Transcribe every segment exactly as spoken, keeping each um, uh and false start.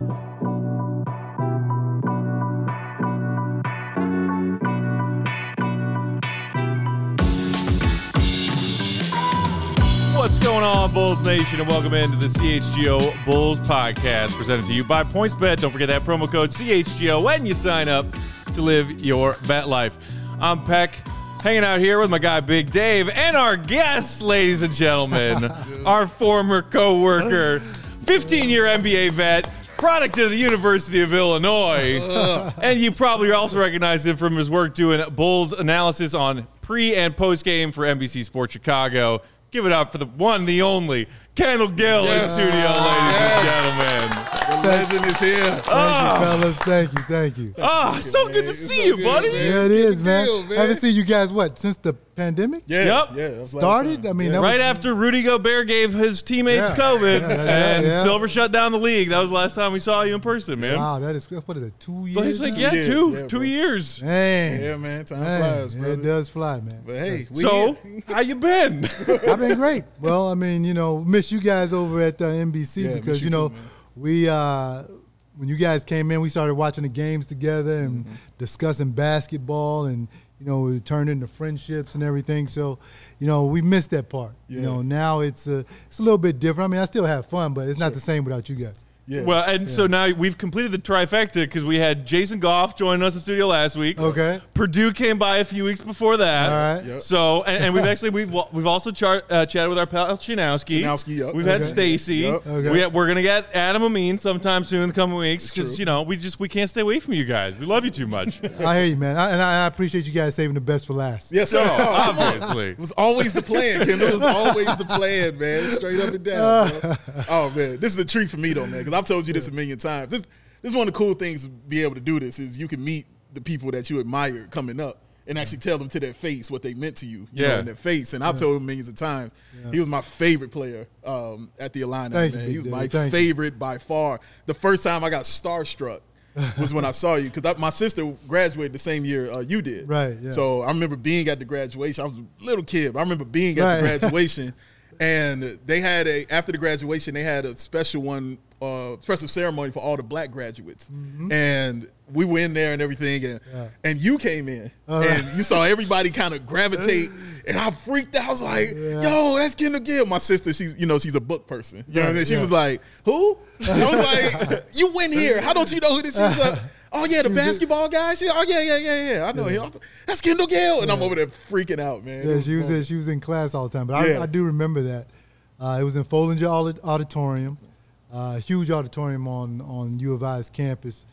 What's going on, Bulls Nation, and welcome into the C H G O Bulls podcast, presented to you by PointsBet. Don't forget that promo code C H G O when you sign up to live your bet life. I'm Peck, hanging out here with my guy Big Dave, and our guest, ladies and gentlemen, our former co-worker, fifteen-year N B A vet, product of the University of Illinois, and you probably also recognize him from his work doing Bulls analysis on pre- and post-game for N B C Sports Chicago. Give it up for the one, the only, Kendall Gill yes. in studio, ladies yes. and gentlemen. The legend is here. Thank oh. you, fellas. Thank you, thank you. Ah, oh, so good to it's see so you, good, buddy. Man. Yeah, it is, man. Deal, man. I haven't seen you guys, what, since the pandemic? Yeah. Yep. Yeah, Started? I mean, yeah. that right was, after Rudy Gobert gave his teammates Yeah. COVID Yeah, yeah, and yeah. Silver shut down the league. That was the last time we saw you in person, man. Wow, that is, what is it, two years? But it's like, now? yeah, years, two, yeah, two bro. years. Dang. Yeah, man. Time Dang. flies, Yeah, brother. it does fly, man. But hey, we So, here. how you been? I've been great. Well, I mean, you know, miss you guys over at uh, N B C Yeah, because, miss you you know, too, man. we, uh, when you guys came in, we started watching the games together and Mm-hmm. discussing basketball, and, you know, it turned into friendships and everything. So, you know, we missed that part. Yeah. You know, now it's a, it's a little bit different. I mean, I still have fun, but it's not the same without you guys. Yeah. Well, and so now we've completed the trifecta because we had Jason Goff joining us in studio last week. Okay. Purdue came by a few weeks before that. All right. Yep. So, and, and we've actually we've we've also char- uh, chatted with our pal Chinowski. Chinowski, yep. We've had Okay. Stacy. Yep. Okay. We we're gonna get Adam Amin sometime soon in the coming weeks because true. you know we just we can't stay away from you guys. We love you too much. I hear you, man. I, and I, I appreciate you guys saving the best for last. Yes, sir. So obviously. It was always the plan, Kendall. It was always the plan, man. Straight up and down, man. Oh, man. This is a treat for me, though, man, because I've told you this a million times. This, this is one of the cool things to be able to do this is you can meet the people that you admire coming up and actually tell them to their face what they meant to you, you Yeah. know, in their face. And I've told him millions of times, he was my favorite player um, at the Illini, Thank man. you, He was Big my Dave. Thank you. favorite by far. The first time I got starstruck was when I saw you because my sister graduated the same year uh, you did. Right, yeah. So I remember being at the graduation. I was a little kid, but I remember being at Right. the graduation. And they had a after the graduation, they had a special one, uh, special ceremony for all the black graduates, Mm-hmm. and we were in there and everything, and Yeah. and you came in, Uh, and you saw everybody kind of gravitate, and I freaked out. I was like, Yeah. "Yo, that's Kendall Gill." My sister, she's you know she's a book person, you know what I'm saying? She Yeah. was like, "Who?" I was like, "You went here? How don't you know who this is?" Like, oh yeah, the She was- basketball guy. She, oh yeah, yeah, yeah, yeah. I know him. That's Kendall Gill, and I'm over there freaking out, man. It Yeah, was she was fun. in, she was in class all the time, but Yeah. I, I do remember that. Uh, it was in Follinger Audi- Auditorium, uh, huge auditorium on on U of I's campus,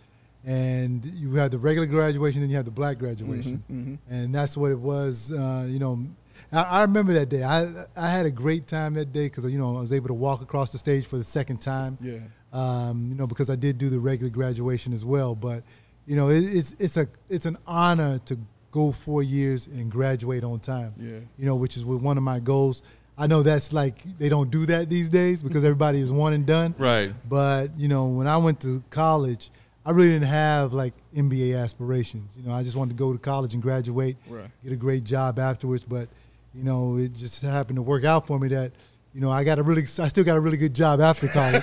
and you had the regular graduation, then you had the black graduation, Mm-hmm, and that's what it was. Uh, you know, I, I remember that day. I I had a great time that day because you know I was able to walk across the stage for the second time. Yeah. Um, you know, because I did do the regular graduation as well, but you know, it, it's it's a it's an honor to go four years and graduate on time. Yeah. You know, which is with one of my goals. I know that's like they don't do that these days because everybody is one and done. Right. But you know, when I went to college, I really didn't have like N B A aspirations. You know, I just wanted to go to college and graduate, Right. get a great job afterwards. But you know, it just happened to work out for me that you know I got a really, I still got a really good job after college,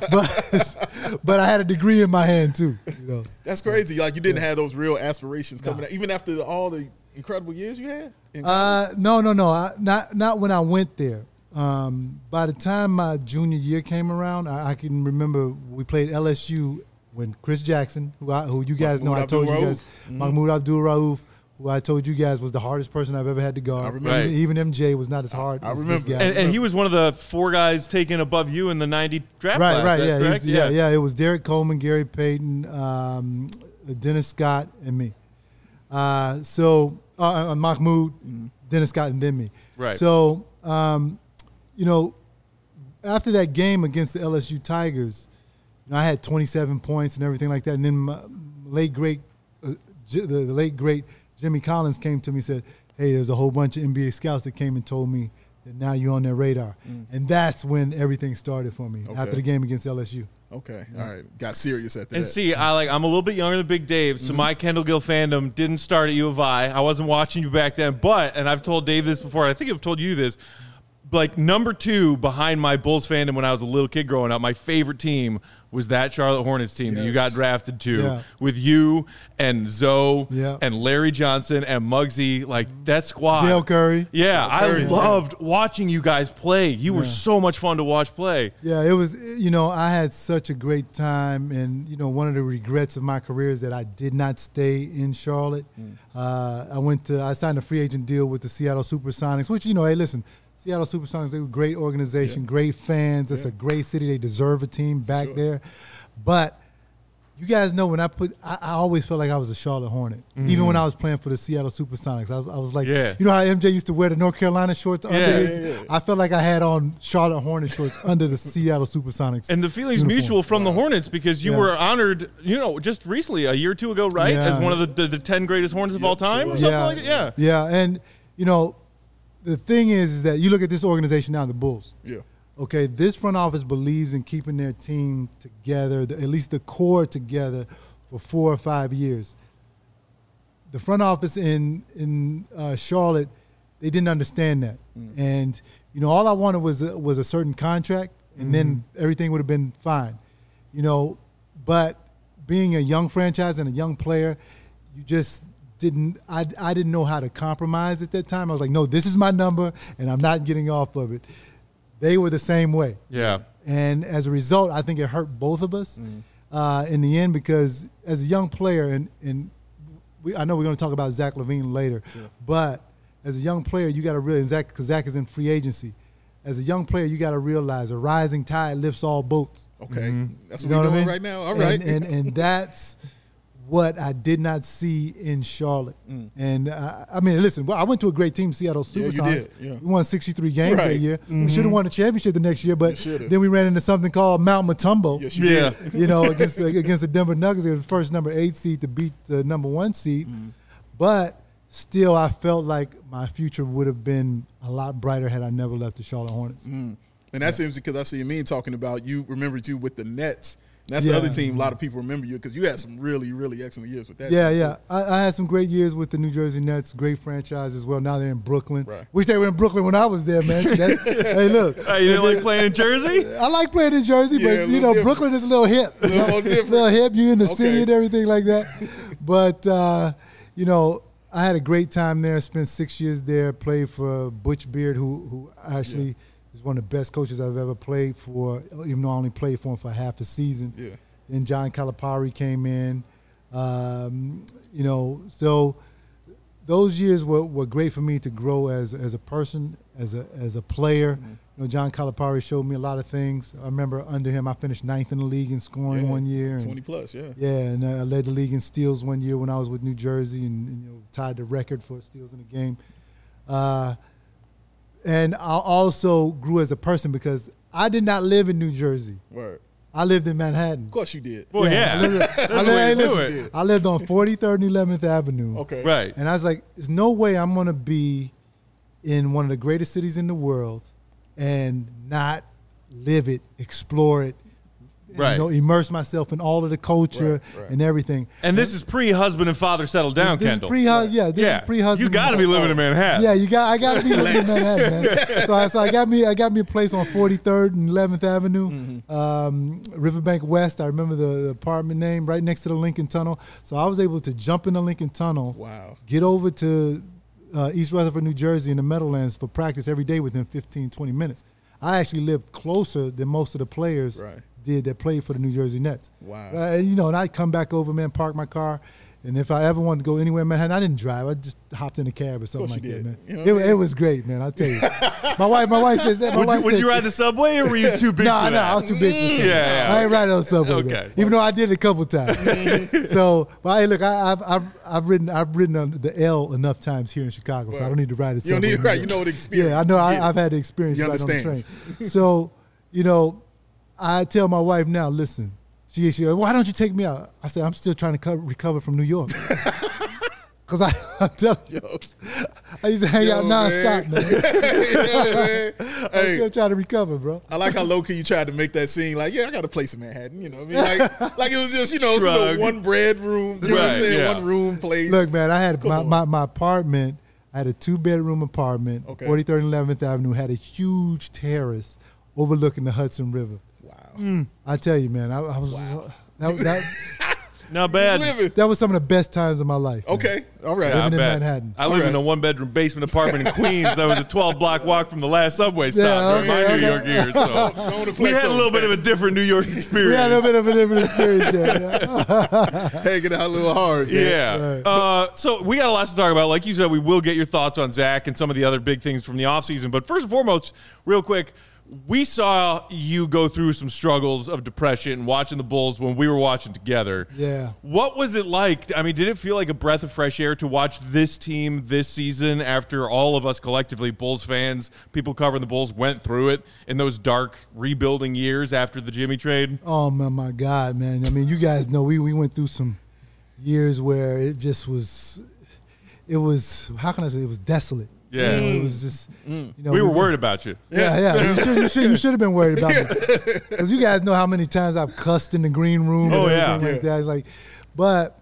but but I had a degree in my hand too. You know, That's crazy. Like you didn't have those real aspirations coming out, even after all the incredible years you had. in college? Uh, no, no, no. I, not not when I went there. Um, by the time my junior year came around, I, I can remember we played L S U when Chris Jackson, who I, who you guys know, I Mahmoud told you Abdul-Rauf. guys, Mhm. Mahmoud Abdul-Rauf, who I told you guys was the hardest person I've ever had to guard. I remember. Right. Even, even M J was not as hard I as remember. this guy. And, and he was one of the four guys taken above you in the ninety draft right, class. right, that's yeah, he correct? was- yeah, yeah. It was Derek Coleman, Gary Payton, um, Dennis Scott, and me. Uh, so uh, uh, Mahmoud, Dennis Scott, and then me. Right. So um, you know, after that game against the L S U Tigers, you know, I had twenty-seven points and everything like that. And then my late great, uh, J- the, the late great Jimmy Collins came to me and said, "Hey, there's a whole bunch of N B A scouts that came and told me that now you're on their radar." Mm. And that's when everything started for me Okay. after the game against L S U. Okay, all right, got serious after And that. see, I like I'm a little bit younger than Big Dave, so Mm-hmm. my Kendall Gill fandom didn't start at U of I. I wasn't watching you back then, but and I've told Dave this before. I think I've told you this. like number two behind my Bulls fandom when I was a little kid growing up, my favorite team was that Charlotte Hornets team yes. that you got drafted to yeah. with you and Zoe yeah. and Larry Johnson and Muggsy, like that squad. Dale Curry. Yeah, Dale Curry, I loved yeah. watching you guys play. You yeah. were so much fun to watch play. Yeah, it was, you know, I had such a great time. And, you know, one of the regrets of my career is that I did not stay in Charlotte. Mm. Uh, I went to, I signed a free agent deal with the Seattle Supersonics, which, you know, hey, listen, Seattle Supersonics, they were a great organization, yeah. great fans. It's yeah. a great city. They deserve a team back sure. there. But you guys know when I put, I, I always felt like I was a Charlotte Hornet. Mm-hmm. Even when I was playing for the Seattle Supersonics, I, I was like, yeah. you know how M J used to wear the North Carolina shorts yeah. under his? Yeah, yeah, yeah. I felt like I had on Charlotte Hornet shorts under the Seattle Supersonics. And the feeling's uniform. mutual from wow. the Hornets because you yeah. were honored, you know, just recently, a year or two ago, right? Yeah. As one of the, the, the ten greatest Hornets of Yep, all time sure or something yeah. like that? Yeah. Yeah, and, you know, the thing is, is that you look at this organization now, the Bulls. Yeah. Okay, this front office believes in keeping their team together, the, at least the core together, for four or five years. The front office in in uh, Charlotte, they didn't understand that, mm. and you know, all I wanted was a, was a certain contract, and mm-hmm. then everything would have been fine, you know. But being a young franchise and a young player, you just didn't. I I didn't know how to compromise at that time. I was like, no, this is my number, and I'm not getting off of it. They were the same way. Yeah. And as a result, I think it hurt both of us mm. uh, in the end because as a young player, and, and we, I know we're going to talk about Zach LaVine later, yeah. but as a young player, you got to realize, Zach, because Zach is in free agency, as a young player, you got to realize a rising tide lifts all boats. Okay. Mm-hmm. That's what we're doing I mean? right now. All right. And, and, and that's what I did not see in Charlotte. Mm. And, uh, I mean, listen, well, I went to a great team, Seattle Supersonics. Yeah, you did. Yeah. We won sixty-three games right. that year. Mm-hmm. We should have won the championship the next year, but then we ran into something called Mount Matumbo. Yes, you yeah. did. You know, against, against the Denver Nuggets. They were the first number eight seed to beat the number one seed. Mm. But still, I felt like my future would have been a lot brighter had I never left the Charlotte Hornets. Mm. And that yeah. seems because I see me talking about you remember too with the Nets. And that's yeah. the other team. A lot of people remember you because you had some really, really excellent years with that. Yeah, team yeah. I, I had some great years with the New Jersey Nets. Great franchise as well. Now they're in Brooklyn. Right. Wish they were in Brooklyn when I was there, man. That, hey, look. Uh, you didn't like playing in Jersey? I like playing in Jersey, Yeah, but you know, different. Brooklyn is a little hip. A little more different. A little hip. You in the Okay. city and everything like that. But uh, you know, I had a great time there. Spent six years there. Played for Butch Beard, who who actually. Yeah. He's one of the best coaches I've ever played for, even though I only played for him for half a season. Yeah. Then John Calipari came in. Um, you know, so those years were, were great for me to grow as as a person, as a as a player. Mm-hmm. You know, John Calipari showed me a lot of things. I remember under him, I finished ninth in the league in scoring yeah. one year. And, twenty plus, yeah. Yeah, and I led the league in steals one year when I was with New Jersey, and, and you know, tied the record for steals in a game. Uh, And I also grew as a person because I did not live in New Jersey. Word. I lived in Manhattan. Of course you did. Well, yeah. yeah. I lived, That's I the lived, way hey, to do listen, it. I lived on forty-third and eleventh Avenue. Okay. Right. And I was like, there's no way I'm going to be in one of the greatest cities in the world and not live it, explore it, and, right. you know, immerse myself in all of the culture right, right. and everything. And this is pre-husband and father settled down, This, this Kendall. is pre, right. yeah, this yeah. is pre-husband. You got to be living in Manhattan. Yeah, you got. I got to be living in Manhattan, man. So, I, so I got me. I got me a place on forty-third and eleventh Avenue, mm-hmm. um, Riverbank West. I remember the, the apartment name right next to the Lincoln Tunnel. So I was able to jump in the Lincoln Tunnel. Wow. Get over to uh, East Rutherford, New Jersey, in the Meadowlands for practice every day within fifteen, twenty minutes. I actually lived closer than most of the players right. did that played for the New Jersey Nets. Wow. Uh, and, you know, and I'd come back over, man, park my car. And if I ever wanted to go anywhere in Manhattan, I didn't drive. I just hopped in a cab or something like that, man. You know it, I mean? it was great, man. I'll tell you. my wife, my wife says that. My Would, wife you, would says, you ride the subway, or were you too big nah, for No, that? I was too big for subway. Yeah, yeah. I ain't riding on subway, Okay. man. Even though I did it a couple times. So, but hey, look, I, I've I've I've ridden I've ridden on the L enough times here in Chicago, so I don't need to ride a You subway. don't need anymore. right. You know the experience. Yeah, I know. I, Yeah. I've had the experience You right on the train. understand. So, you know, I tell my wife now, listen. She she goes, why don't you take me out? I said, I'm still trying to co- recover from New York. Because I, I'm telling you, I used to hang Yo, out nonstop, man. Yeah, man. I'm Hey, still trying to recover, bro. I like how low key you tried to make that scene. Like, yeah, I got a place in Manhattan. You know, what I mean, like, like it was just, you know, it's a Shrug. one bread room. You know what I'm Right, saying? yeah. One room place. Look, man, I had Come my, on. my, my apartment. I had a two-bedroom apartment, Okay. forty-third and eleventh Avenue, had a huge terrace overlooking the Hudson River. Wow. Mm, I tell you, man, I, I was Wow. that, that, Not bad. Living. that was some of the best times of my life. man. Okay. All right. Yeah, I Living in bet. Manhattan. I live All in a right. one-bedroom basement apartment in Queens. That was a twelve-block walk from the last subway stop Yeah, during my okay, New okay. York years. So Don't wanna we flex had a on little bit that. of a different New York experience. We had a bit of a different experience there. Yeah. Hanging out a little hard. Man. Yeah. Right. Uh, so we got a lot to talk about. Like you said, we will get your thoughts on Zach and some of the other big things from the offseason. But first and foremost, real quick, we saw you go through some struggles of depression watching the Bulls when we were watching together. Yeah. What was it like? I mean, did it feel like a breath of fresh air to watch this team this season after all of us collectively, Bulls fans, people covering the Bulls, went through it in those dark rebuilding years after the Jimmy trade? Oh my, my God, man! I mean, you guys know we we went through some years where it just was, it was how can I say it was desolate. Yeah. You know, it was just. You know, We were worried about you. Yeah, yeah. You should, you should, you should have been worried about me because you guys know how many times I've cussed in the green room. Oh, and yeah. everything like Yeah. that. It's like, but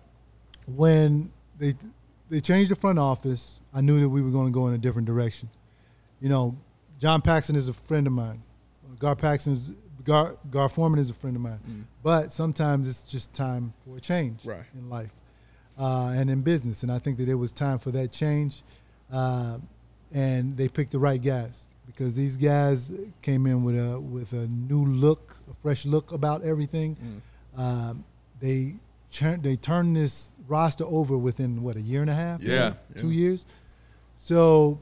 when they they changed the front office, I knew that we were going to go in a different direction. You know, John Paxson is a friend of mine. Gar Paxson is Gar, Gar Foreman is a friend of mine. Mm. But sometimes it's just time for a change Right. in life uh, and in business, and I think that it was time for that change. Uh, and they picked the right guys because these guys came in with a with a new look, a fresh look about everything. Mm. Um, they turned they turned this roster over within what a year and a half, Yeah. two Yeah. years. So,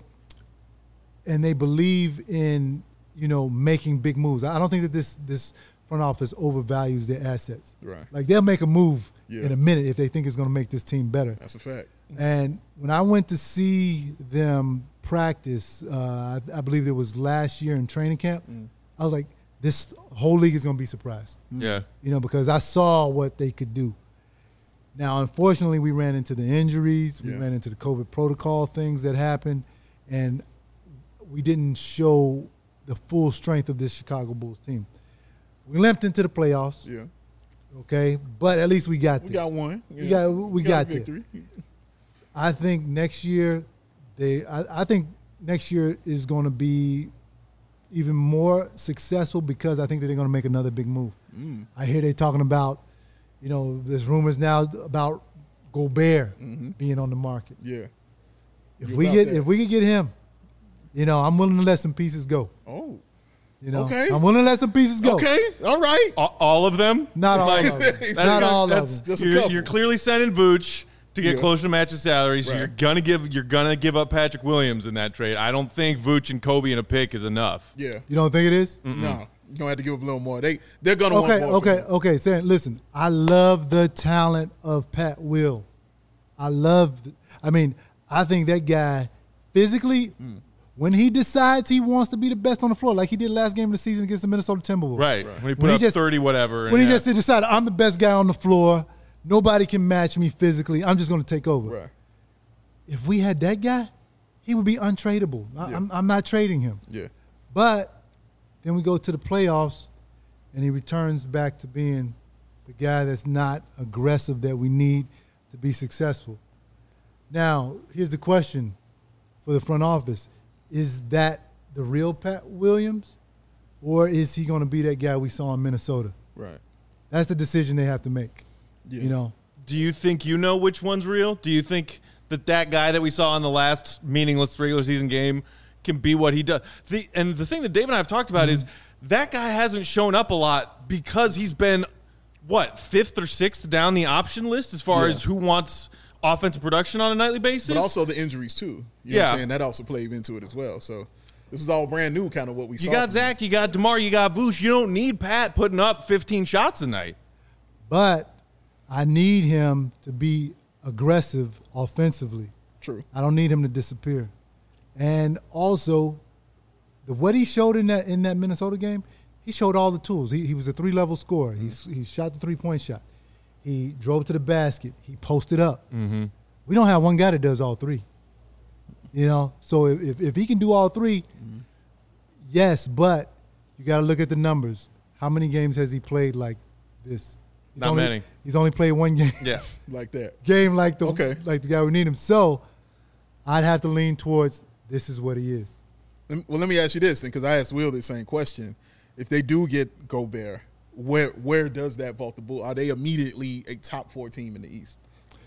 and they believe in you know making big moves. I don't think that this this front office overvalues their assets. Right. Like they'll make a move Yeah. in a minute if they think it's going to make this team better. That's a fact. And when I went to see them practice, uh, I, I believe it was last year in training camp, Mm. I was like, this whole league is going to be surprised, Yeah. you know, because I saw what they could do. Now, unfortunately, we ran into the injuries. We Yeah. ran into the COVID protocol things that happened, and we didn't show the full strength of this Chicago Bulls team. We limped into the playoffs, Yeah. okay, but at least we got We there. got one. We Yeah. got we, got, a there. victory. I think next year, they. I, I think next year is going to be even more successful because I think that they're going to make another big move. Mm. I hear they talking about, you know, there's rumors now about Gobert Mhm. being on the market. Yeah. If You we about get that. if we could get him, you know, I'm willing to let some pieces go. Oh. You know, Okay. I'm willing to let some pieces go. Okay. All right. All, all of them? Not all Like, of them. That's Not good. all That's of them. Just a you're, couple. you're clearly sending Vooch to get Yeah. closer to match the salary, so Right. you're gonna give you're gonna give up Patrick Williams in that trade. I don't think Vooch and Kobe in a pick is enough. Yeah. You don't think it is? No. You're gonna have to give up a little more. They they're gonna Okay, want more. okay, from him. okay. Saying, listen, I love the talent of Pat Will. I love. The, I mean, I think that guy physically, Mm. when he decides he wants to be the best on the floor, like he did last game of the season against the Minnesota Timberwolves. Right. When he put When he up just- thirty whatever. and When he yeah. just decided, I'm the best guy on the floor. Nobody can match me physically. I'm just going to take over. Right. If we had that guy, he would be untradeable. I, Yeah. I'm, I'm not trading him. Yeah. But then we go to the playoffs, and he returns back to being the guy that's not aggressive that we need to be successful. Now, here's the question for the front office. Is that the real Pat Williams, or is he going to be that guy we saw in Minnesota? Right. That's the decision they have to make, Yeah. you know. Do you think you know which one's real? Do you think that that guy that we saw in the last meaningless regular season game can be what he does? The, and the thing that Dave and I have talked about Mm-hmm. is that guy hasn't shown up a lot because he's been, what, fifth or sixth down the option list as far Yeah. as who wants offensive production on a nightly basis? But also the injuries too. You know what Yeah. I'm saying? That also played into it as well. So this is all brand new, kind of what we you saw. got from him. Zach, you got DeMar, you got Vooch. You don't need Pat putting up fifteen shots a night. But I need him to be aggressive offensively. True. I don't need him to disappear. And also, the what he showed in that in that Minnesota game, he showed all the tools. He, he was a three-level scorer. He's, he shot the three-point shot. He drove to the basket. He posted up. Mm-hmm. We don't have one guy that does all three. You know, so if, if, if he can do all three, Mm-hmm. yes, but you got to look at the numbers. How many games has he played like this? He's Not only, many. He's only played one game. Yeah. Like that. game like the Okay. like the guy we need him. So I'd have to lean towards this is what he is. Well, let me ask you this then, because I asked Will the same question. If they do get Gobert, where where does that vault the Bulls? Are they immediately a top four team in the East?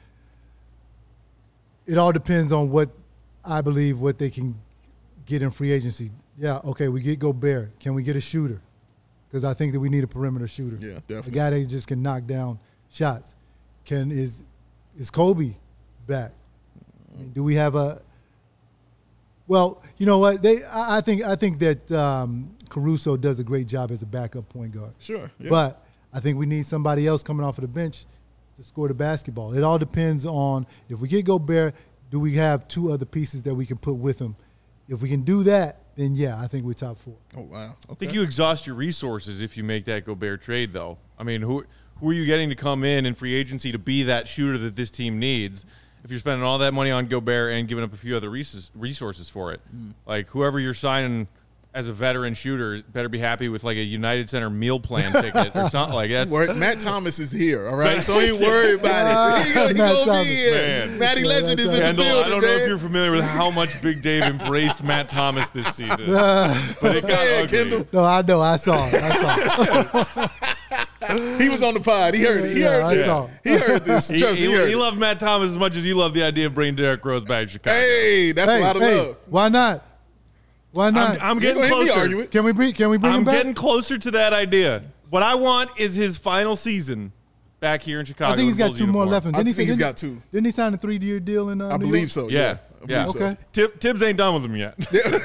It all depends on what I believe what they can get in free agency. Yeah, okay, we get Gobert. Can we get a shooter? Because I think that we need a perimeter shooter. Yeah, definitely. A guy that just can knock down shots. Can is is Kobe back? I mean, do we have a? Well, you know what? They I, I think I think that um, Caruso does a great job as a backup point guard. Sure. Yeah. But I think we need somebody else coming off of the bench to score the basketball. It all depends on if we get Gobert, do we have two other pieces that we can put with him? If we can do that, then yeah, I think we're top four. Oh wow. Okay. I think you exhaust your resources if you make that Gobert trade, though. I mean, who who are you getting to come in in free agency to be that shooter that this team needs? If you're spending all that money on Gobert and giving up a few other resources for it, mm. like whoever you're signing as a veteran shooter better be happy with like a United Center meal plan ticket or something like that. Matt Thomas is here, all right? So ain't worry about it. He, he gonna be here. Man. Matty Legend is in Kendall, the building, I don't know man. if you're familiar with how much Big Dave embraced Matt Thomas this season, but it got Yeah, ugly. Kendall. No, I know. I saw it. I saw it. He was on the pod. He heard it. He Yeah, heard I this. saw it. He heard this. He, Trust me, he, he, heard he it. loved Matt Thomas as much as you love the idea of bringing Derrick Rose back to Chicago. Hey, that's Hey, a lot of hey, love. why not? Why not? I'm, I'm You getting ain't gonna hear me closer. argue it. can we bring? Can we bring I'm him back? getting closer to that idea. What I want is his final season back here in Chicago. I think he's in got Bulls two more uniform. left. And I didn't he think say- he's didn't- got two. Didn't he sign a three-year deal in? Uh, I New believe York? so. Yeah, I yeah. believe so. Okay. Tib- Tibbs ain't done with him yet.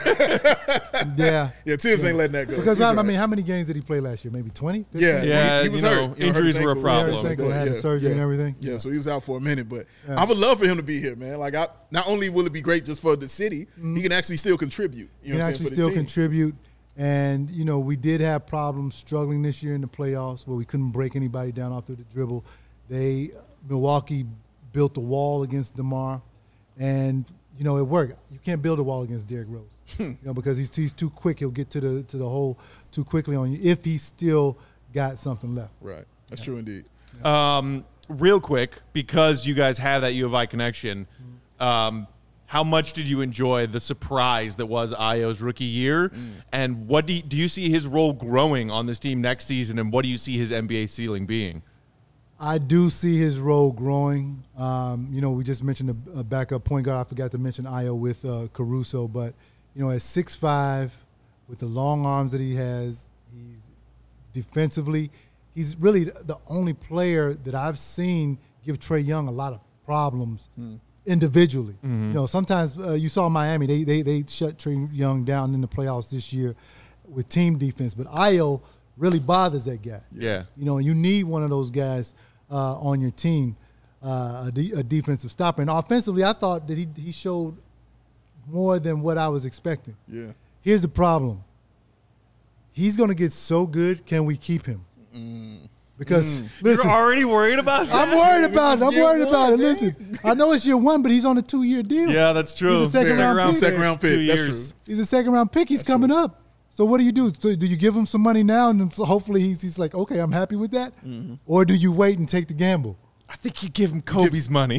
Yeah. Yeah, Tibbs ain't letting that go. Because He's I, I right. mean, how many games did he play last year? Maybe twenty? Yeah, Yeah, he, he was you hurt. know, You hurt injuries his were a ankle, problem. stuff like Ankle, that. had the Yeah, surgery yeah. and everything. Yeah, so he was out for a minute, but Yeah. I would love for him to be here, man. Like, I not only will it be great just for the city, Mm-hmm. he can actually still contribute. You He know can what I'm actually saying, for still the team. contribute. And, you know, we did have problems struggling this year in the playoffs where we couldn't break anybody down off of the dribble. They Milwaukee built a wall against DeMar, and, you know, it worked. You can't build a wall against Derrick Rose, you know, because he's too, he's too quick. He'll get to the to the hole too quickly on you if he's still got something left. Right. That's true indeed. Um, real quick, because you guys have that U of I connection, um, how much did you enjoy the surprise that was Ayo's rookie year? Mm. And what do you, do you see his role growing on this team next season? And what do you see his N B A ceiling being? I do see his role growing. Um, you know, we just mentioned a, a backup point guard. I forgot to mention Ayo with uh, Caruso, but you know, at six five, with the long arms that he has, he's defensively, he's really the only player that I've seen give Trae Young a lot of problems Hmm. individually. You know, sometimes uh, you saw Miami; they they they shut Trae Young down in the playoffs this year with team defense, but Ayo really bothers that guy. Yeah. You know, you need one of those guys uh, on your team, uh, a, de- a defensive stopper. And offensively, I thought that he he showed more than what I was expecting. Yeah. Here's the problem. He's going to get so good, can we keep him? Because, listen, You're already worried about that? I'm worried about it. I'm Year worried one, about it. man. Listen, I know it's year one, but he's on a two-year deal. Yeah, that's true. He's a second round pick. Second round pick. Two That's years. true. He's a second-round pick. He's coming up. So what do you do? So do you give him some money now, and then so hopefully he's, he's like, okay, I'm happy with that? Mm-hmm. Or do you wait and take the gamble? I think you give him Kobe's money.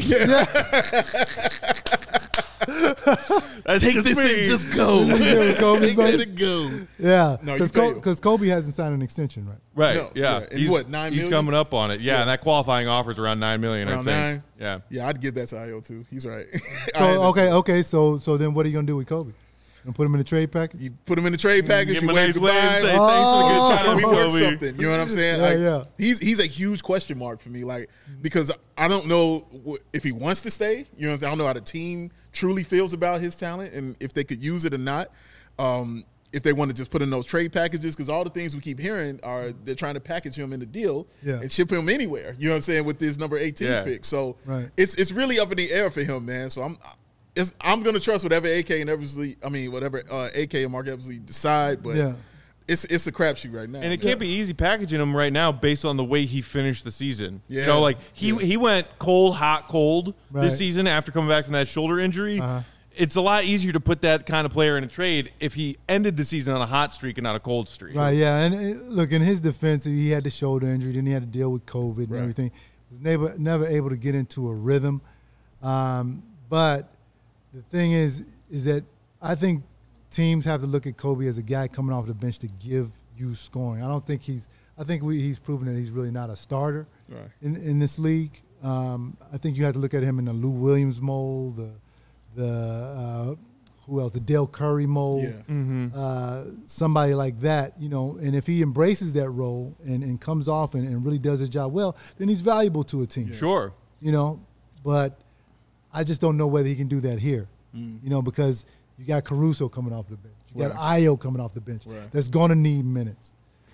That's Take just this me. and just go. Yeah, Kobe's Take money. that and go. Yeah, No, you because pay him. Kobe, Kobe hasn't signed an extension, right? Right. No, yeah. yeah. And He's, what, nine he's million? coming up on it. Yeah, Yeah. and that qualifying offer is around nine million. Around I think. nine? Yeah. Yeah, I'd give that to Ayo too. He's right. I So had okay, to- okay. So so then what are you gonna do with Kobe? Gonna put him in the trade package? You put him in the trade package. Give You him a wave nice goodbye. wave and say Oh. thanks for the good Try to times, rework Kobe. something. You know what I'm saying? Yeah, like, yeah. He's he's a huge question mark for me. Like because I don't know wh- if he wants to stay. You know, what I'm saying? I don't know how the team truly feels about his talent and if they could use it or not. Um, if they want to just put in those trade packages, because all the things we keep hearing are they're trying to package him in the deal Yeah. and ship him anywhere. You know what I'm saying? With this number eighteen Yeah. pick, so Right. it's it's really up in the air for him, man. So I'm. It's, I'm gonna trust whatever A K and Eversley, I mean whatever uh, A K and Mark Eversley decide, but Yeah. it's it's a crapshoot right now. And it man. can't be easy packaging him right now based on the way he finished the season. You Yeah. know, like he Yeah. he went cold, hot, cold Right. this season after coming back from that shoulder injury. Uh-huh. It's a lot easier to put that kind of player in a trade if he ended the season on a hot streak and not a cold streak. Right, yeah. And uh, look, in his defense, he had the shoulder injury, then he had to deal with COVID and Right. everything. Was never never able to get into a rhythm. Um, but the thing is, is that I think teams have to look at Kobe as a guy coming off the bench to give you scoring. I don't think he's. I think we, he's proven that he's really not a starter Right. in in this league. Um, I think you have to look at him in the Lou Williams mold, the the uh, who else, the Dale Curry mold, Yeah. Mm-hmm. uh, somebody like that, you know. And if he embraces that role and, and comes off and, and really does his job well, then he's valuable to a team. Sure. You know, but I just don't know whether he can do that here. Mm. You know, because you got Caruso coming off the bench, you got Right. Ayo coming off the bench. Right. That's going to need minutes.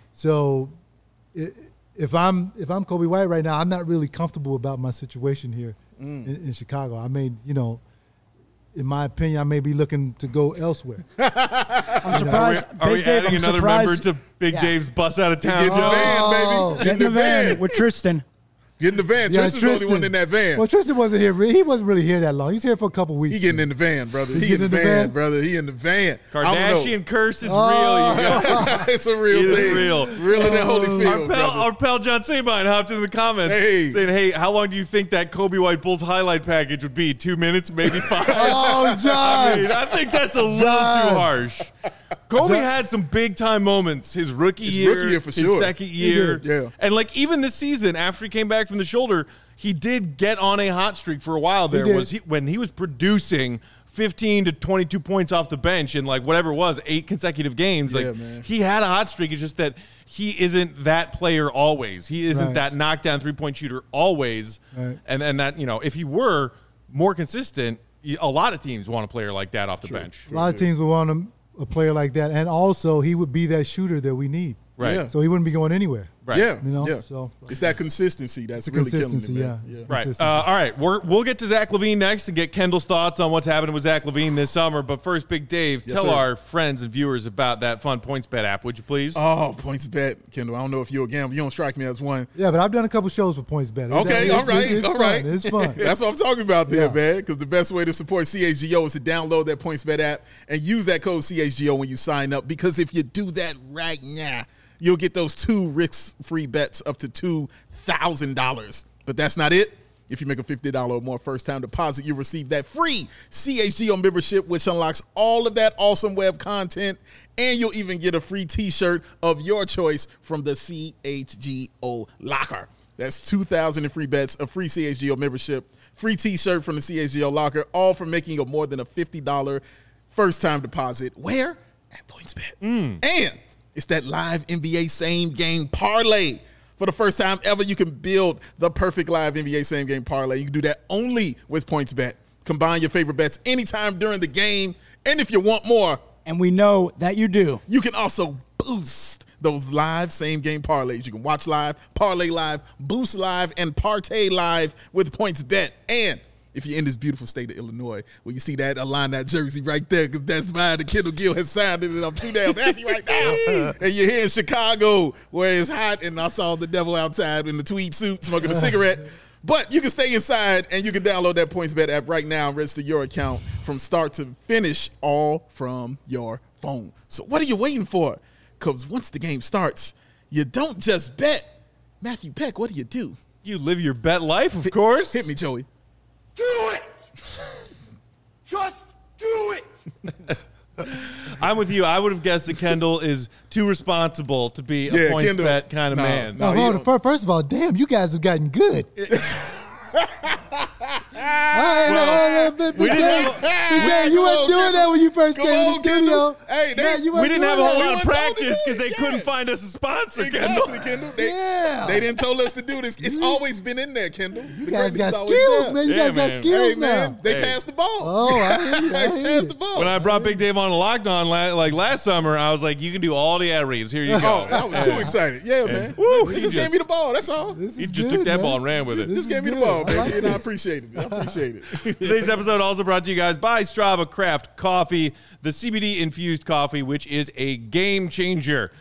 So. It, If I'm if I'm Kobe White right now, I'm not really comfortable about my situation here Mm. in, in Chicago. I may, you know, in my opinion, I may be looking to go elsewhere. I'm surprised. Are we, are we Big Dave, adding I'm another surprised. member to Big Yeah. Dave's bus out of town? Get in the Oh. van, baby. Get in the van with Tristan. Get in the van. Yeah, Tristan's the only one in that van. Well, Tristan wasn't here. He wasn't really here that long. He's here for a couple weeks. He getting in the van, brother. He's He in the, getting in the van, van? brother. He in the van. I don't know. Kardashian curse is Oh. real, you guys. It's a real It is thing. real. Real in that Oh. Holyfield, Our pal, brother. our pal John Sabine hopped into the comments Hey. saying, hey, how long do you think that Kobe White Bulls highlight package would be? Two minutes, maybe five? Oh, John. I mean, I think that's a little John. too harsh. Kobe John. had some big time moments. His rookie His year, rookie year for his sure. second year, did, yeah. and like even this season, after he came back from the shoulder, he did get on a hot streak for a while. There did. was he, when he was producing fifteen to twenty-two points off the bench in like whatever it was, eight consecutive games. Yeah, like man. he had a hot streak. It's just that he isn't that player always. He isn't Right. that knockdown three point shooter always. Right. And and that you know if he were more consistent, a lot of teams want a player like that off the bench. A lot of teams would want him, a player like that, and also he would be that shooter that we need. Right. Yeah. So he wouldn't be going anywhere. Right. Yeah, You know, yeah. so- It's that consistency that's The really killing it, consistency, man. yeah. Right. Consistency. Uh, all right. We're, we'll get to Zach LaVine next and get Kendall's thoughts on what's happening with Zach LaVine this summer. But first, Big Dave, Yes, tell sir. our friends and viewers about that fun PointsBet app, would you please? Oh, points bet, Kendall. I don't know if you're a gambler. You don't strike me as one. Yeah, but I've done a couple shows for PointsBet. Okay, It's- all right, it's, it's all fun. right. It's fun. That's what I'm talking about there, Yeah. man. Because the best way to support C H G O is to download that PointsBet app and use that code C H G O when you sign up. Because if you do that right now, you'll get those two risk-free bets up to two thousand dollars. But that's not it. If you make a fifty dollars or more first-time deposit, you receive that free C H G O membership, which unlocks all of that awesome web content, and you'll even get a free T-shirt of your choice from the C H G O locker. That's two thousand dollars in free bets, a free C H G O membership, free T-shirt from the C H G O locker, all for making a more than a fifty dollars first-time deposit. Where? At PointsBet. And it's that live N B A same-game parlay. For the first time ever, you can build the perfect live N B A same-game parlay. You can do that only with PointsBet. Combine your favorite bets anytime during the game. And if you want more, And we know that you do. you can also boost those live same-game parlays. You can watch live, parlay live, boost live, and partay live with PointsBet. And if you're in this beautiful state of Illinois, where you see that, align that jersey right there, because that's mine. The Kendall Gill has signed it, and I'm too damn happy right now. And you're here in Chicago, where it's hot, and I saw the devil outside in the tweed suit smoking a cigarette. But you can stay inside, and you can download that PointsBet app right now and register your account from start to finish, all from your phone. So what are you waiting for? Because once the game starts, you don't just bet. Matthew Peck, what do you do? You live your bet life, of course. Hit me, Joey. Do it! Just do it! I'm with you. I would have guessed that Kendall is too responsible to be a Yeah, points Kendall- bet kind of nah, man. nah. Now, you hold don't- on. Fir- First of all, damn, you guys have gotten good. Well, Big we didn't Dave, have a- Big Dave, you Come weren't on, doing Kendall. that when you first Come came on, to the studio. Kendall. Hey, they- Yeah, you we weren't didn't doing have a whole that. lot We of weren't told to practice do because it, they yeah. couldn't find us a sponsor, Kendall. Exactly, Kendall. They, Yeah. they didn't tell us to do this. It's always been in there, Kendall. You guys got skills, man. You Yeah, guys got man. skills Hey, man, now. they Hey. passed the ball. Oh, I hear you. I They hear passed you. the ball. When I brought Big Dave on the lockdown la- like last summer, I was like, you can do all the ad reads. Here you go. Oh, I was too excited. Yeah, man. Woo, he he just, just- gave me the ball. That's all. This He is just good, took that man. ball and ran with it. This Just is gave me the good. ball, I baby, like and I this. appreciate it. I appreciate it. Today's episode also brought to you guys by Strava Craft Coffee, the C B D infused coffee, which is a game changer.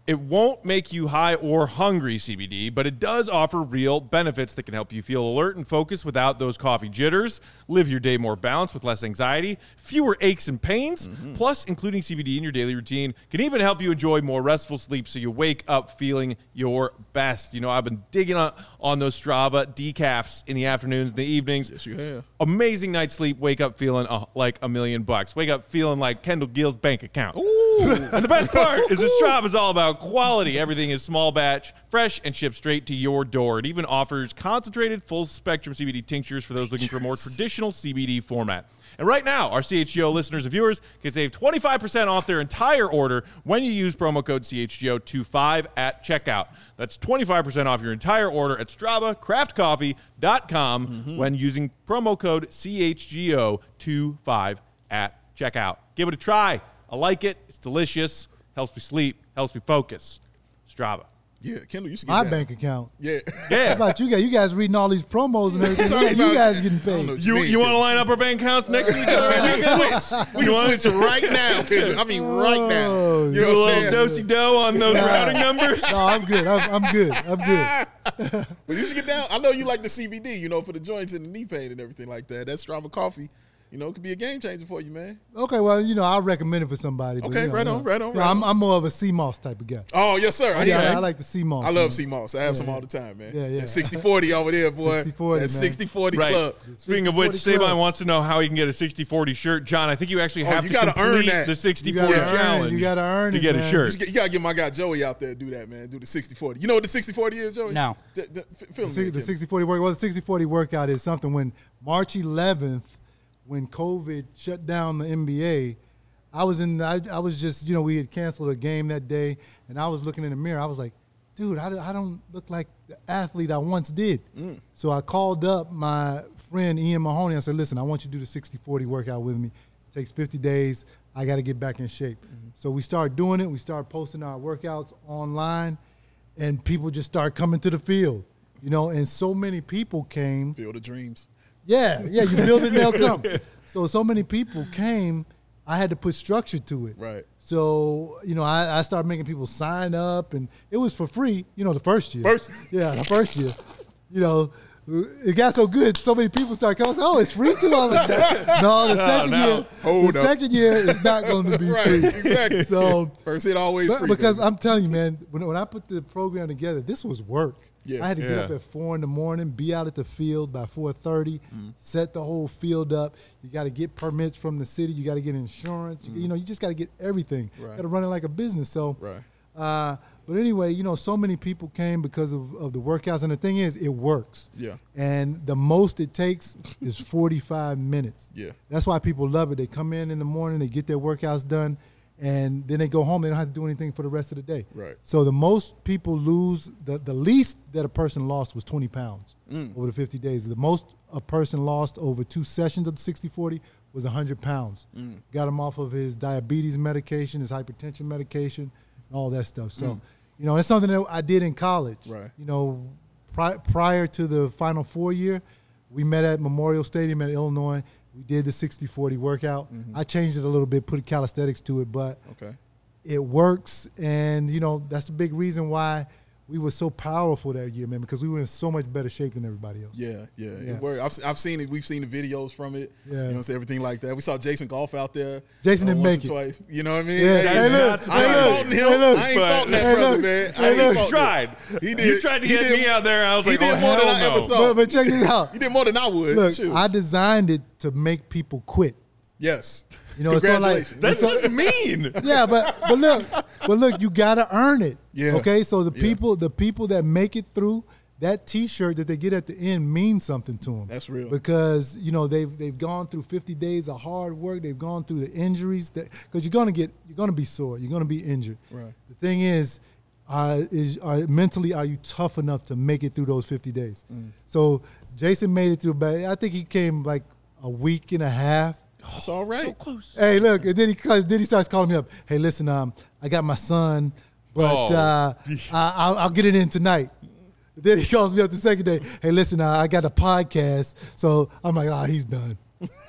It won't make you high or hungry, C B D, but it does offer real benefits that can help you feel alert and focused without those coffee jitters, live your day more balanced with less anxiety, fewer aches and pains, mm-hmm. plus including C B D in your daily routine can even help you enjoy more restful sleep so you wake up feeling your best. You know, I've been digging on, on those Strava decafs in the afternoons and the evenings. Yes, you have. Amazing night's sleep, wake up feeling uh, like a million bucks. Wake up feeling like Kendall Gill's bank account. Ooh. And the best part is that Strava is all about quality. Everything is small batch, fresh, and shipped straight to your door. It even offers concentrated full-spectrum C B D tinctures for those looking for a more traditional C B D format. And right now, our C H G O listeners and viewers can save twenty-five percent off their entire order when you use promo code C H G O twenty-five at checkout. That's twenty-five percent off your entire order at Strava Craft Coffee dot com mm-hmm. when using promo code C H G O twenty-five at checkout. Give it a try. I like it. It's delicious. Helps me sleep. Helps me focus. Strava. Yeah, Kendall, you should get My that. bank account. Yeah. Yeah. How about you guys? You guys reading all these promos and everything. Talking you about- guys getting I don't know paid. what You mean, you want to Kendall. line up our bank accounts next to each other? We can switch. We You can want- switch right now, Kendall. I mean, right now. Oh, You Do know a what I'm little saying? do-si-do on those Nah. routing numbers. No, I'm good. I'm, I'm good. I'm good. But you should get down. I know you like the C B D, you know, for the joints and the knee pain and everything like that. That Strava coffee, you know, could be a game changer for you, man. Okay, well, you know, I'll recommend it for somebody. But, Okay, you know, right you on, know, right on, you know, right I'm, on. I'm more of a sea moss type of guy. Oh, yes, sir. I, Yeah, yeah, I like the sea moss. I you love know. sea moss. I have Yeah, some yeah. all the time, man. Yeah, yeah. sixty forty over there, boy. sixty forty, That man. sixty forty Right. club. Speaking of which, sixty forty Saban club. wants to know how he can get a sixty forty shirt. John, I think you actually Oh, have you to gotta earn complete that. the sixty You gotta forty earn it. challenge You gotta earn to it, get a man. shirt. You, get, you gotta get my guy Joey out there to do that, man. Do the sixty forty. You know what the sixty forty is, Joey? No. D- d- f- fill me The, in, the Kendall. sixty forty work. Well, the sixty forty workout is something when March eleventh, when COVID shut down the N B A, I was in. I, I was just, you know, we had canceled a game that day, and I was looking in the mirror. I was like, dude, I, I don't look like the athlete I once did. Mm. So I called up my friend Ian Mahoney. I said, listen, I want you to do the sixty forty workout with me. It takes fifty days. I got to get back in shape. Mm-hmm. So we started doing it. We started posting our workouts online, and people just started coming to the field. You know, and so many people came. Field of Dreams. Yeah, yeah, you build it and they'll come. So, so many people came, I had to put structure to it. Right. So, you know, I, I started making people sign up, and it was for free, you know, the first year. First- Yeah, the first year. You know, it got so good, so many people started coming. Oh, it's free too? I was like, no, the second no. year, Hold the up. second year is not going to be Right, free. exactly. So, First hit always but- free. because baby. I'm telling you, man, when, when I put the program together, this was work. Yeah. I had to get Yeah. up at four in the morning, be out at the field by four thirty, set the whole field up. You got to get permits from the city. You got to get insurance. You, you know, you just got to get everything. Right. Got to run it like a business. So, Right. uh, but anyway, you know, so many people came because of, of the workouts, and the thing is, it works. Yeah. And the most it takes is forty-five minutes. Yeah. That's why people love it. They come in in the morning, they get their workouts done, and then they go home. They don't have to do anything for the rest of the day. Right. So the most people lose, the, the least that a person lost was twenty pounds over the fifty days. The most a person lost over two sessions of the sixty forty was one hundred pounds. Got him off of his diabetes medication, his hypertension medication, and all that stuff. So, you know, it's something that I did in college. Right. You know, pri- prior to the Final Four year, we met at Memorial Stadium at Illinois. We did the sixty forty workout. I changed it a little bit, put calisthenics to it, but Okay. it works. And, you know, that's the big reason why we were so powerful that year, man, because we were in so much better shape than everybody else. Yeah, yeah, Yeah. It worked. I've, I've seen it. We've seen the videos from it. Yeah. You know, so everything like that. We saw Jason Golf out there. Jason uh, didn't once make or it. Twice. You know what I mean? Yeah, Hey, hey, look, I ain't hey, look, faulting him. hey, look. I ain't But- faulting that Hey, brother, look. man. I Hey, ain't look. You faulting tried. him. He did. You tried to he get did- me out there. I was he like, did oh, more than hell I ever no. thought. But, but check this out. He did more than I would. Look, Shoot. I designed it to make people quit. yes. You know, it's sort of like Congratulations. That's it's just mean. yeah, but but look, but look, you gotta earn it. Yeah. Okay, so the Yeah. people, the people that make it through, that T-shirt that they get at the end means something to them. That's real. Because you know they've they've gone through fifty days of hard work. They've gone through the injuries that because you're gonna get you're gonna be sore. You're gonna be injured. Right. The thing is, uh, is are, mentally are you tough enough to make it through those fifty days? Mm. So Jason made it through. But I think he came like a week and a half. That's all right. So close. Hey, look, and then he then he starts calling me up. Hey, listen, um, I got my son, but Oh. uh, I, I'll, I'll get it in tonight. Then he calls me up the second day. Hey, listen, uh, I got a podcast, so I'm like, oh, he's done.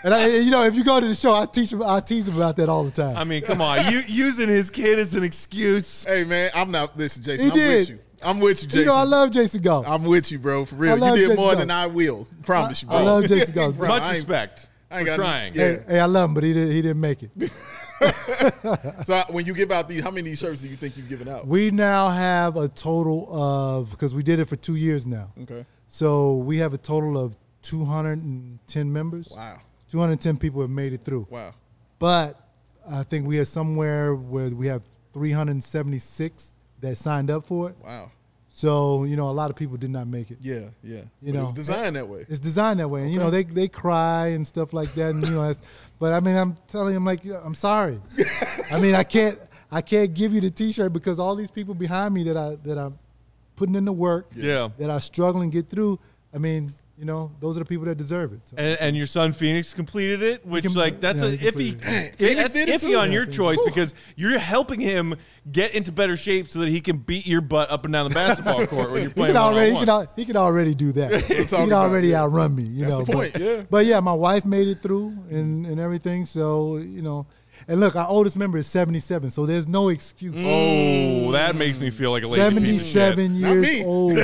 And I, you know, if you go to the show, I teach him, I tease him about that all the time. I mean, come on, you using his kid as an excuse. Hey, man, I'm not. Listen, Jason, He I'm did. with you. I'm with you, Jason. you know, I love Jason Goff. I'm with you, bro. For real. You love did Jason more Goff. than I will. Promise you, I bro. love Jason Goff, Bro, Much I ain't- respect I ain't for got- trying. yeah. hey, hey, I love him, but he didn't, he didn't make it. So I- when you give out these, how many shirts do you think you've given out? We now have a total of, because we did it for two years now. Okay. So we have a total of two hundred ten members. Wow. two hundred ten people have made it through. Wow. But I think we are somewhere where we have three hundred seventy-six that signed up for it. Wow. So, you know, a lot of people did not make it. Yeah. Yeah. You But know, it was designed that way. It's designed that way. And, you know, they they cry and stuff like that. And, you know, that's, but I mean, I'm telling them, like, I'm sorry. I mean, I can't I can't give you the T-shirt because all these people behind me that, I, that I'm putting in the work, Yeah. that I struggle and get through, I mean, you know, those are the people that deserve it. So. And, and your son Phoenix completed it, which can- like that's yeah, a he iffy. completed it. Phoenix That's did it iffy too? on Yeah, your Phoenix. choice because you're helping him get into better shape so that he can beat your butt up and down the basketball court when you're He playing can already, he one-on-one. can, al- he can already do that. he talking can about, already yeah. outrun me. You That's know, the point, but, yeah. But yeah, my wife made it through and, and everything. So you know, and look, our oldest member is seventy-seven, so there's no excuse. Oh, that makes me feel like a lazy piece of shit. seventy-seven Not years me. old,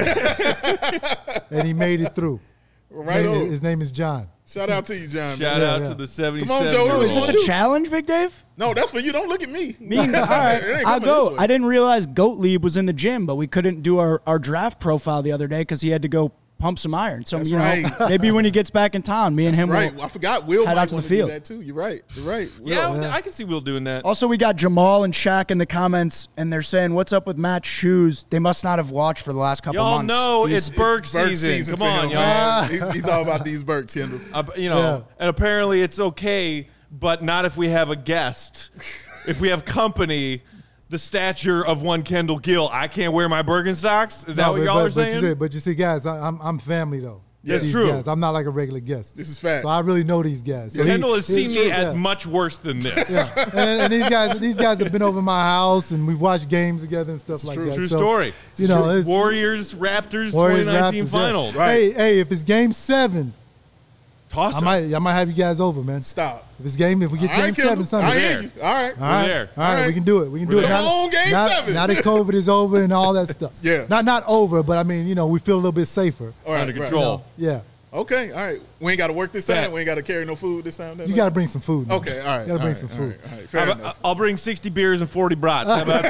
and he made it through. Right His name- on. His name is John. Shout out to you, John. Shout man. out yeah. to the seventy-seven. Come on, Joe. year Oh, Is is this old. this a challenge, Big Dave? No, that's for you. Don't look at me. Me, all right, It ain't I'll coming go. this way. I didn't realize Gottlieb was in the gym, but we couldn't do our, our draft profile the other day because he had to go pump some iron. So That's you know, right. maybe when he gets back in town, me and him Right. will. I forgot. Will head might out to the wanna do field. that too. You're right. You're right. Will. Yeah, I can see Will doing that. Also, we got Jamal and Shaq in the comments, and they're saying, "What's up with Matt's shoes?" They must not have watched for the last couple Y'all months. know He's- it's Burke Burke season. Come for on, him, y'all. man. He's, he's all about these Burks, Kendall. Uh, you know, Yeah. and apparently it's okay, but not if we have a guest. If we have company, the stature of one Kendall Gill, I can't wear my Birkenstocks. Is that No, what but- y'all but, are but saying? You see, but you see, guys, I, I'm I'm family though. That's These true. Guys. I'm not like a regular guest. This is fact. So I really know these guys. So he- Kendall has seen it's me true, at yeah. much worse than this. Yeah, and, and these guys, these guys have been over my house, and we've watched games together and stuff like true. that. True So, story. You know, it's, Warriors, Raptors, Warriors, twenty nineteen Raptors, yeah. finals. Right. Hey, hey, if it's game seven, Toss I it. might, I might have you guys over, man. Stop. If it's game, if we get All game right, seven Kendall. Sunday, I hear there. you. All right. All right, there. all right, All right. we can do it. We can We're do it. there. Now, Come on, game now, seven. now that COVID is over and all that stuff. Yeah. Not not over, but I mean, you know, we feel a little bit safer. All right. Under right. control. Yeah. Okay. All right. We ain't got to work this time. Bet. We ain't got to carry no food this time. You got to bring some food. man. Okay. All right. You got to all bring right, some all food. right, all right. Fair I'll, enough. I'll bring sixty beers and forty brats. How about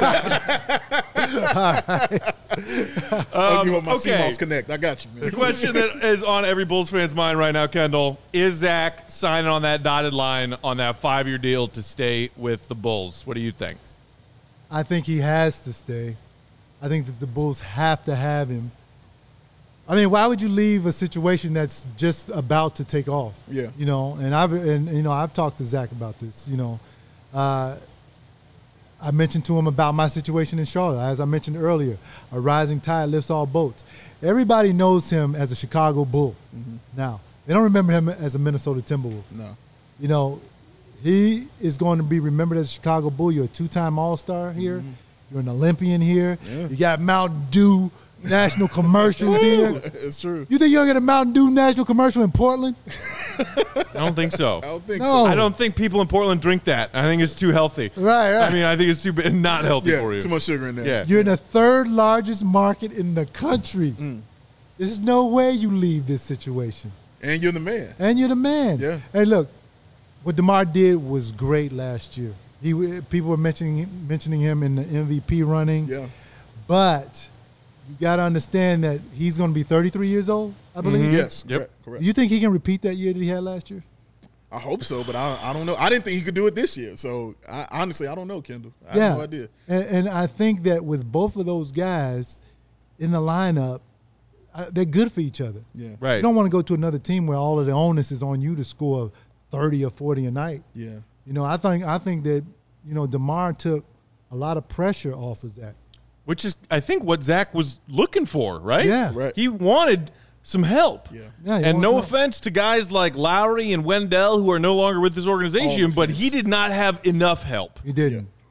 that? I'll give up my Um, okay. C-Moss Connect. I got you, man. The question that is on every Bulls fan's mind right now, Kendall, is Zach signing on that dotted line on that five-year deal to stay with the Bulls? What do you think? I think he has to stay. I think that the Bulls have to have him. I mean, why would you leave a situation that's just about to take off? Yeah. You know, and I've and you know I've talked to Zach about this. You know, uh, I mentioned to him about my situation in Charlotte. As I mentioned earlier, a rising tide lifts all boats. Everybody knows him as a Chicago Bull. Mm-hmm. Now they don't remember him as a Minnesota Timberwolf. No. You know, he is going to be remembered as a Chicago Bull. You're a two-time All-Star here. Mm-hmm. You're an Olympian here. You got Mountain Dew national commercials here. It's true. You think you're going to get a Mountain Dew national commercial in Portland? I don't think so. I don't think No. so. I don't think people in Portland drink that. I think it's too healthy. Right, right. I mean, I think it's too b- not healthy Yeah. for you. Too much sugar in there. Yeah. You're in the third largest market in the country. Mm. There's no way you leave this situation. And you're the man. And you're the man. Yeah. Hey, look, what DeMar did was great last year. He people were mentioning mentioning him in the M V P running. Yeah. But you got to understand that he's going to be thirty-three years old, I believe. Yes. Yep. Correct. Correct. Do you think he can repeat that year that he had last year? I hope so, but I, I don't know. I didn't think he could do it this year. So I, honestly, I don't know, Kendall. I yeah. have no idea. And, and I think that with both of those guys in the lineup, uh, they're good for each other. Yeah. Right. You don't want to go to another team where all of the onus is on you to score thirty or forty a night. Yeah. You know, I think I think that, you know, DeMar took a lot of pressure off of Zach. Which is, I think, what Zach was looking for, right? Yeah. Right. He wanted some help. Yeah. Yeah, he And wants no help. offense to guys like Lowry and Wendell who are no longer with this organization, All but offense. he did not have enough help. He didn't.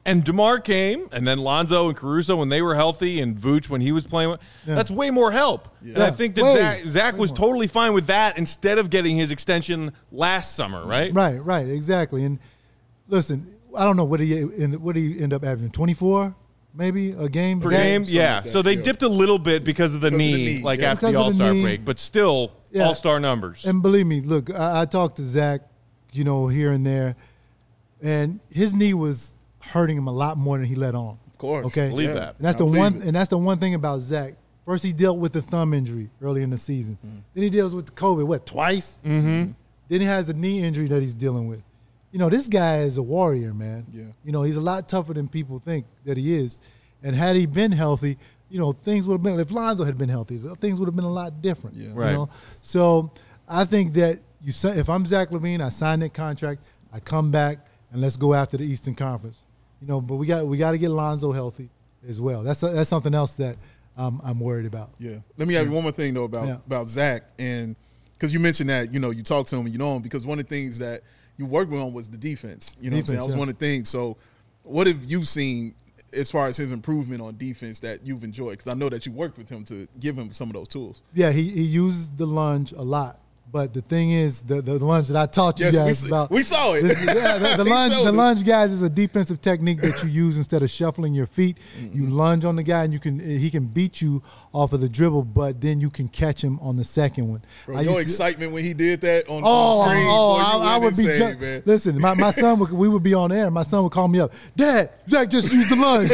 And DeMar came, and then Lonzo and Caruso when they were healthy, and Vooch when he was playing. Yeah. That's way more help. Yeah. And I think that Way, Zach, Zach way was more. totally fine with that instead of getting his extension last summer, right? Right, right, exactly. And listen, I don't know what he end- what he end up averaging, twenty-four maybe a game Per Zach? game, yeah. like that, so they yeah. dipped a little bit because of the Because of the knee, knee, like yeah. after the Because of the All-Star knee. break, but still Yeah. All-Star numbers. And believe me, look, I, I talked to Zach, you know, here and there, and his knee was hurting him a lot more than he let on. Of course. Okay, Believe Yeah. that. And that's I the believe one, it. and that's the one thing about Zach. First, he dealt with the thumb injury early in the season. Mm. Then he deals with the COVID, what, twice? Mm-hmm. Then he has the knee injury that he's dealing with. You know, this guy is a warrior, man. Yeah. You know, he's a lot tougher than people think that he is. And had he been healthy, you know, things would have been, if Lonzo had been healthy, things would have been a lot different. Yeah. You Right. know? So I think that you, si- if I'm Zach LaVine, I sign that contract, I come back, and let's go after the Eastern Conference. You know, but we got we got to get Lonzo healthy as well. That's that's something else that um, I'm worried about. Yeah. Let me have one more thing though about Yeah. about Zach, and because you mentioned that you know you talk to him and you know him because one of the things that you worked with on was the defense. You know what I'm saying? Defense, That was yeah. one of the things. So what have you seen as far as his improvement on defense that you've enjoyed? Because I know that you worked with him to give him some of those tools. Yeah, he, he used the lunge a lot. But the thing is, the, the lunge that I taught you Yes, we guys s- about. we saw it. This is- yeah, the, the He lunge, showed the us. lunge, guys, is a defensive technique that you use instead of shuffling your feet. Mm-hmm. You lunge on the guy, and you can he can beat you off of the dribble, but then you can catch him on the second one. Bro, I your used to- excitement when he did that on, Oh, on screen, oh, boy, you I, I went would be. insane, Ju- man. Listen, my, my son would. We would be on air. My son would call me up. Dad, Zach just used the lunge.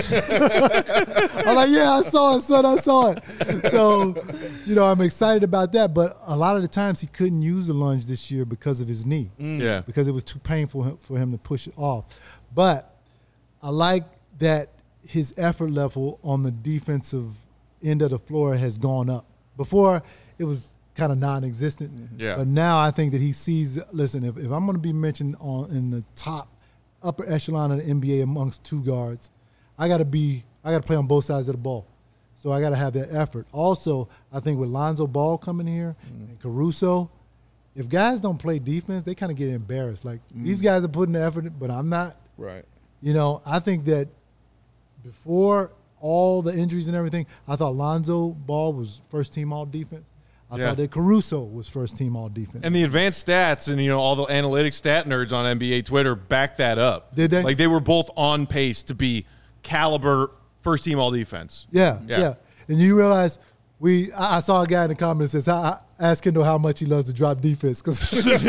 I'm like, yeah, I saw it, son. I saw it. So, you know, I'm excited about that. But a lot of the times he couldn't use the lunge this year because of his knee. Yeah. Because it was too painful for him to push it off. But I like that his effort level on the defensive end of the floor has gone up. Before, it was kind of non-existent. Yeah. But now I think that he sees, listen, if, if I'm going to be mentioned on in the top upper echelon of the N B A amongst two guards, I got to be, I got to play on both sides of the ball. So I got to have that effort. Also, I think with Lonzo Ball coming here and Caruso, if guys don't play defense, they kind of get embarrassed. Like, these guys are putting the effort, but I'm not. Right. You know, I think that before all the injuries and everything, I thought Lonzo Ball was first team all defense. I Yeah. thought that Caruso was first team all defense. And the advanced stats and, you know, all the analytics stat nerds on N B A Twitter back that up. Did they? Like, they were both on pace to be caliber first team all defense. yeah, Yeah. yeah, And you realize we, I, I saw a guy in the comments that says, I, I asked Kendall how much he loves to drop defense. Because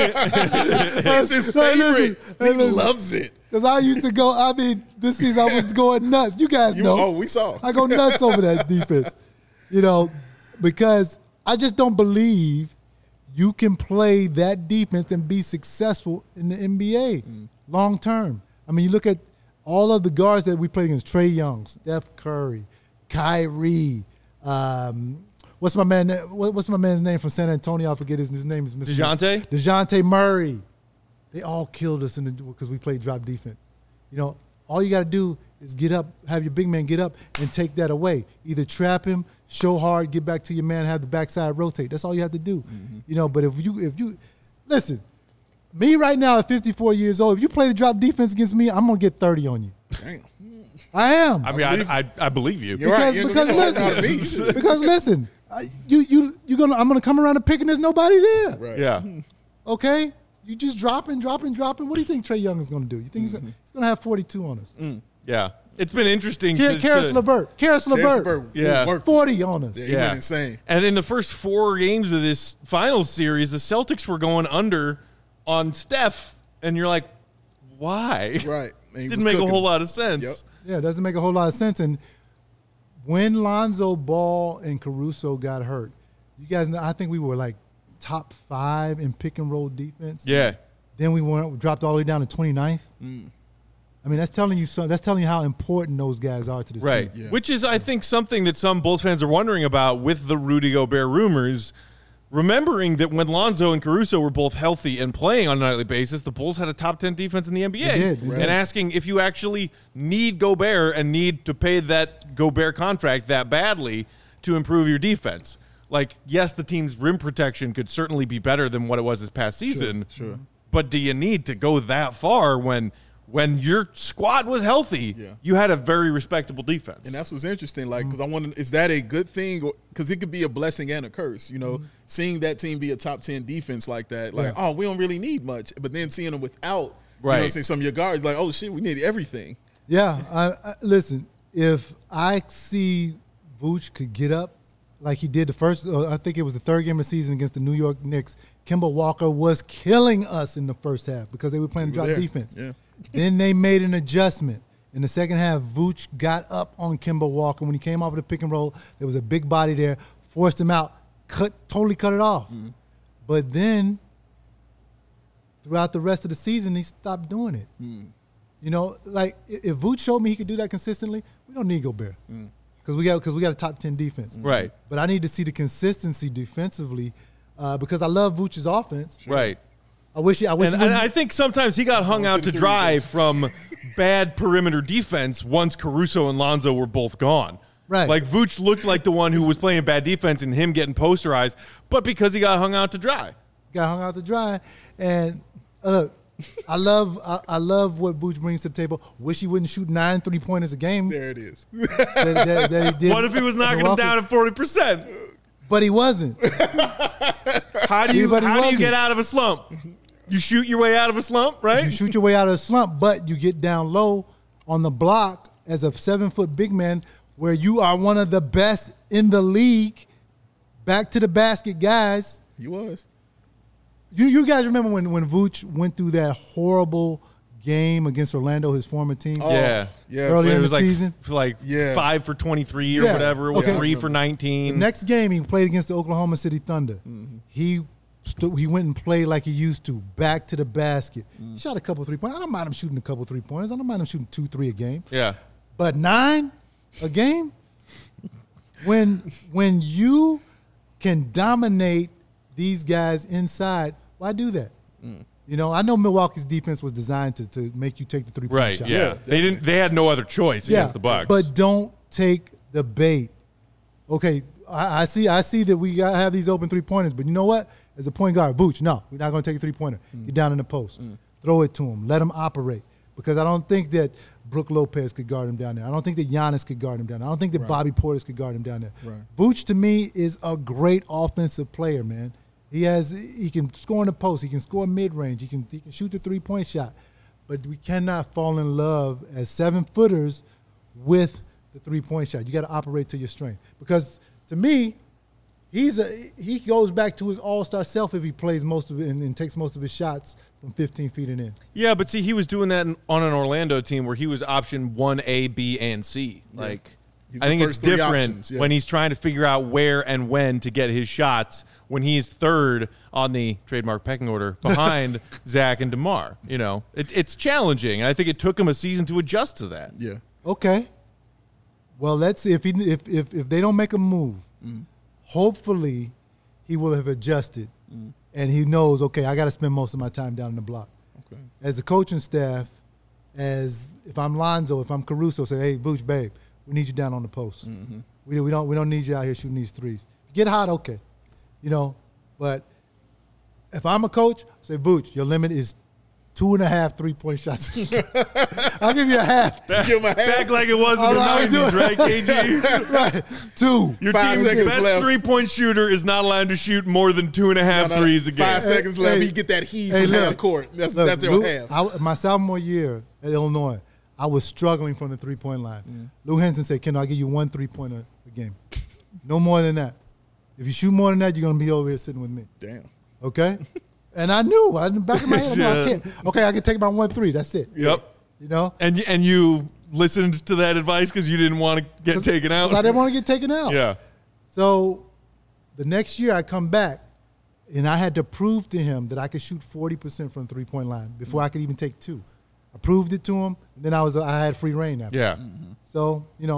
It's his Hey, listen, favorite. hey, He listen. loves it. I used to go, I mean, this season I was going nuts. You guys You, know. oh, we saw. I go nuts over that defense, you know, because I just don't believe you can play that defense and be successful in the N B A long term. I mean, you look at all of the guards that we played against: Trae Young, Steph Curry, Kyrie. Um, what's my man? what- What's my man's name from San Antonio? I forget his, his name is Mister DeJounte? DeJounte Murray. They all killed us in the because we played drop defense. You know, all you got to do is get up, have your big man get up and take that away. Either trap him, show hard, get back to your man, have the backside rotate. That's all you have to do. You know, but if you if you listen, me right now at fifty-four years old, if you play the drop defense against me, I'm gonna get thirty on you. Damn. I am. I mean, I, I, I believe you. You're right. because You're because gonna know how to listen, beat. because listen, I- you you you gonna I'm gonna come around the pick and there's nobody there. Right. Yeah. Okay, you just dropping, dropping, dropping. What do you think Trae Young is going to do? You think he's, he's going to have forty-two on us? Yeah. It's been interesting Car- to, Karis to LeVert, Karis Karis LeVert, LeVert Yeah. worked. forty on us. Yeah, he Yeah. went insane. And in the first four games of this finals series, the Celtics were going under on Steph, and you're like, why? Right. And he Didn't was make cooking. a whole lot of sense. Yep. Yeah, it doesn't make a whole lot of sense. And when Lonzo Ball and Caruso got hurt, you guys know, I think we were like top five in pick and roll defense. Yeah. Then we went we dropped all the way down to twenty-ninth. I mean, that's telling you some, that's telling you how important those guys are to this Right. team. Yeah. Which is, I think, something that some Bulls fans are wondering about with the Rudy Gobert rumors. Remembering that when Lonzo and Caruso were both healthy and playing on a nightly basis, the Bulls had a top ten defense in the N B A. They did, they and did. asking if you actually need Gobert and need to pay that Gobert contract that badly to improve your defense. Like, yes, the team's rim protection could certainly be better than what it was this past season. Sure. But do you need to go that far when when your squad was healthy, Yeah. you had a very respectable defense. And that's what's interesting, like, because I want to, is that a good thing? Because it could be a blessing and a curse, you know, mm-hmm. seeing that team be a top ten defense like that, like, yeah. oh, we don't really need much. But then seeing them without, right. you know what I'm saying, some of your guards, like, oh, shit, we need everything. Yeah, I, I, listen, if I see Vooch could get up like he did the first, uh, I think it was the third game of the season against the New York Knicks, Kemba Walker was killing us in the first half because they were playing drop defense. Yeah. Then they made an adjustment. In the second half, Vooch got up on Kemba Walker. When he came off of the pick and roll, there was a big body there, forced him out, cut, totally cut it off. Mm-hmm. But then throughout the rest of the season, he stopped doing it. Mm. You know, like if Vooch showed me he could do that consistently, we don't need Gobert because mm. we got because we got a top ten defense. Right. But I need to see the consistency defensively uh, because I love Vooch's offense. Right. I wish he, I wish and, he and I think sometimes he got hung out to dry from bad perimeter defense once Caruso and Lonzo were both gone. Right. Like Vooch looked like the one who was playing bad defense and him getting posterized, but because he got hung out to dry. Got hung out to dry. And uh, look, I love I, I love what Vooch brings to the table. Wish he wouldn't shoot nine three-pointers a game. There it is. that, that, that he did. What if he was knocking him down at forty percent? But he wasn't. How do you But he how do you wasn't. get out of a slump? You shoot your way out of a slump, right? You shoot your way out of a slump, but you get down low on the block as a seven-foot big man where you are one of the best in the league, back to the basket guys. He was. You you guys remember when, when Vooch went through that horrible game against Orlando, his former team? Oh, yeah. Yeah. Early it in was the like, season. like Yeah. five for twenty-three or Yeah. whatever, with Okay. three for nineteen. The next game he played against the Oklahoma City Thunder. Mm-hmm. He st- he went and played like he used to, back to the basket. Mm. Shot a couple three-pointers. I don't mind him shooting a couple three-pointers. I don't mind him shooting two, three a game. Yeah. But nine a game? when when you can dominate these guys inside, why do that? Mm. You know, I know Milwaukee's defense was designed to, to make you take the three-point Right, shot. yeah. Yeah, they didn't they had no other choice Yeah, against the Bucks. but don't take the bait. Okay, I, I see I see that we got have these open three-pointers, but you know what? As a point guard, Vooch, no, we're not going to take a three-pointer. Mm. Get down in the post. Mm. Throw it to him. Let him operate. Because I don't think that Brook Lopez could guard him down there. I don't think that Giannis could guard him down there. I don't think that Right. Bobby Portis could guard him down there. Right. Vooch, to me, is a great offensive player, man. He has he can score in the post. He can score mid-range. He can he can shoot the three-point shot. But we cannot fall in love as seven-footers with the three-point shot. You got to operate to your strength. Because to me, he's a he goes back to his all-star self if he plays most of it and, and takes most of his shots from fifteen feet and in. yeah, but see, he was doing that in, on an Orlando team where he was option one A, B, and C. Like, He's I the think it's first three different options, yeah. when he's trying to figure out where and when to get his shots when he's third on the trademark pecking order behind Zach and DeMar. You know, it's it's challenging. And I think it took him a season to adjust to that. Yeah. Okay. Well, let's see if he if if, if they don't make a move. Mm. Hopefully, he will have adjusted, mm. and he knows. Okay, I got to spend most of my time down in the block. Okay. As a coaching staff, as if I'm Lonzo, if I'm Caruso, say, hey, Vooch, babe, we need you down on the post. Mm-hmm. We we don't we don't need you out here shooting these threes. Get hot, okay, you know. But if I'm a coach, say, Vooch, your limit is two and a half three-point shots. I'll give you a half. Give him a half. Back like it was in All the right, do nineties, it. right, K G? Right. Two. Your Five team's seconds best left. three-point shooter is not allowed to shoot more than two and a half No, no, threes a game. Five seconds left. Hey, he get that heave hey, from look, half court. That's Look, that's your Lou, half. I, my sophomore year at Illinois, I was struggling from the three-point line. Mm. Lou Henson said, Kendall, I'll give you one three-pointer a game. No more than that. If you shoot more than that, you're going to be over here sitting with me. Damn. Okay? And I knew. I, in the back of my head, no, I Yeah. can't. Okay, I can take my one three. That's it. Yep. You know? And y- and you listened to that advice because you didn't want to get taken out. 'Cause I didn't want to get taken out. Yeah. So the next year I come back, and I had to prove to him that I could shoot forty percent from the three-point line before I could even take two. I proved it to him, and then I was I had free reign after. Yeah. So, you know,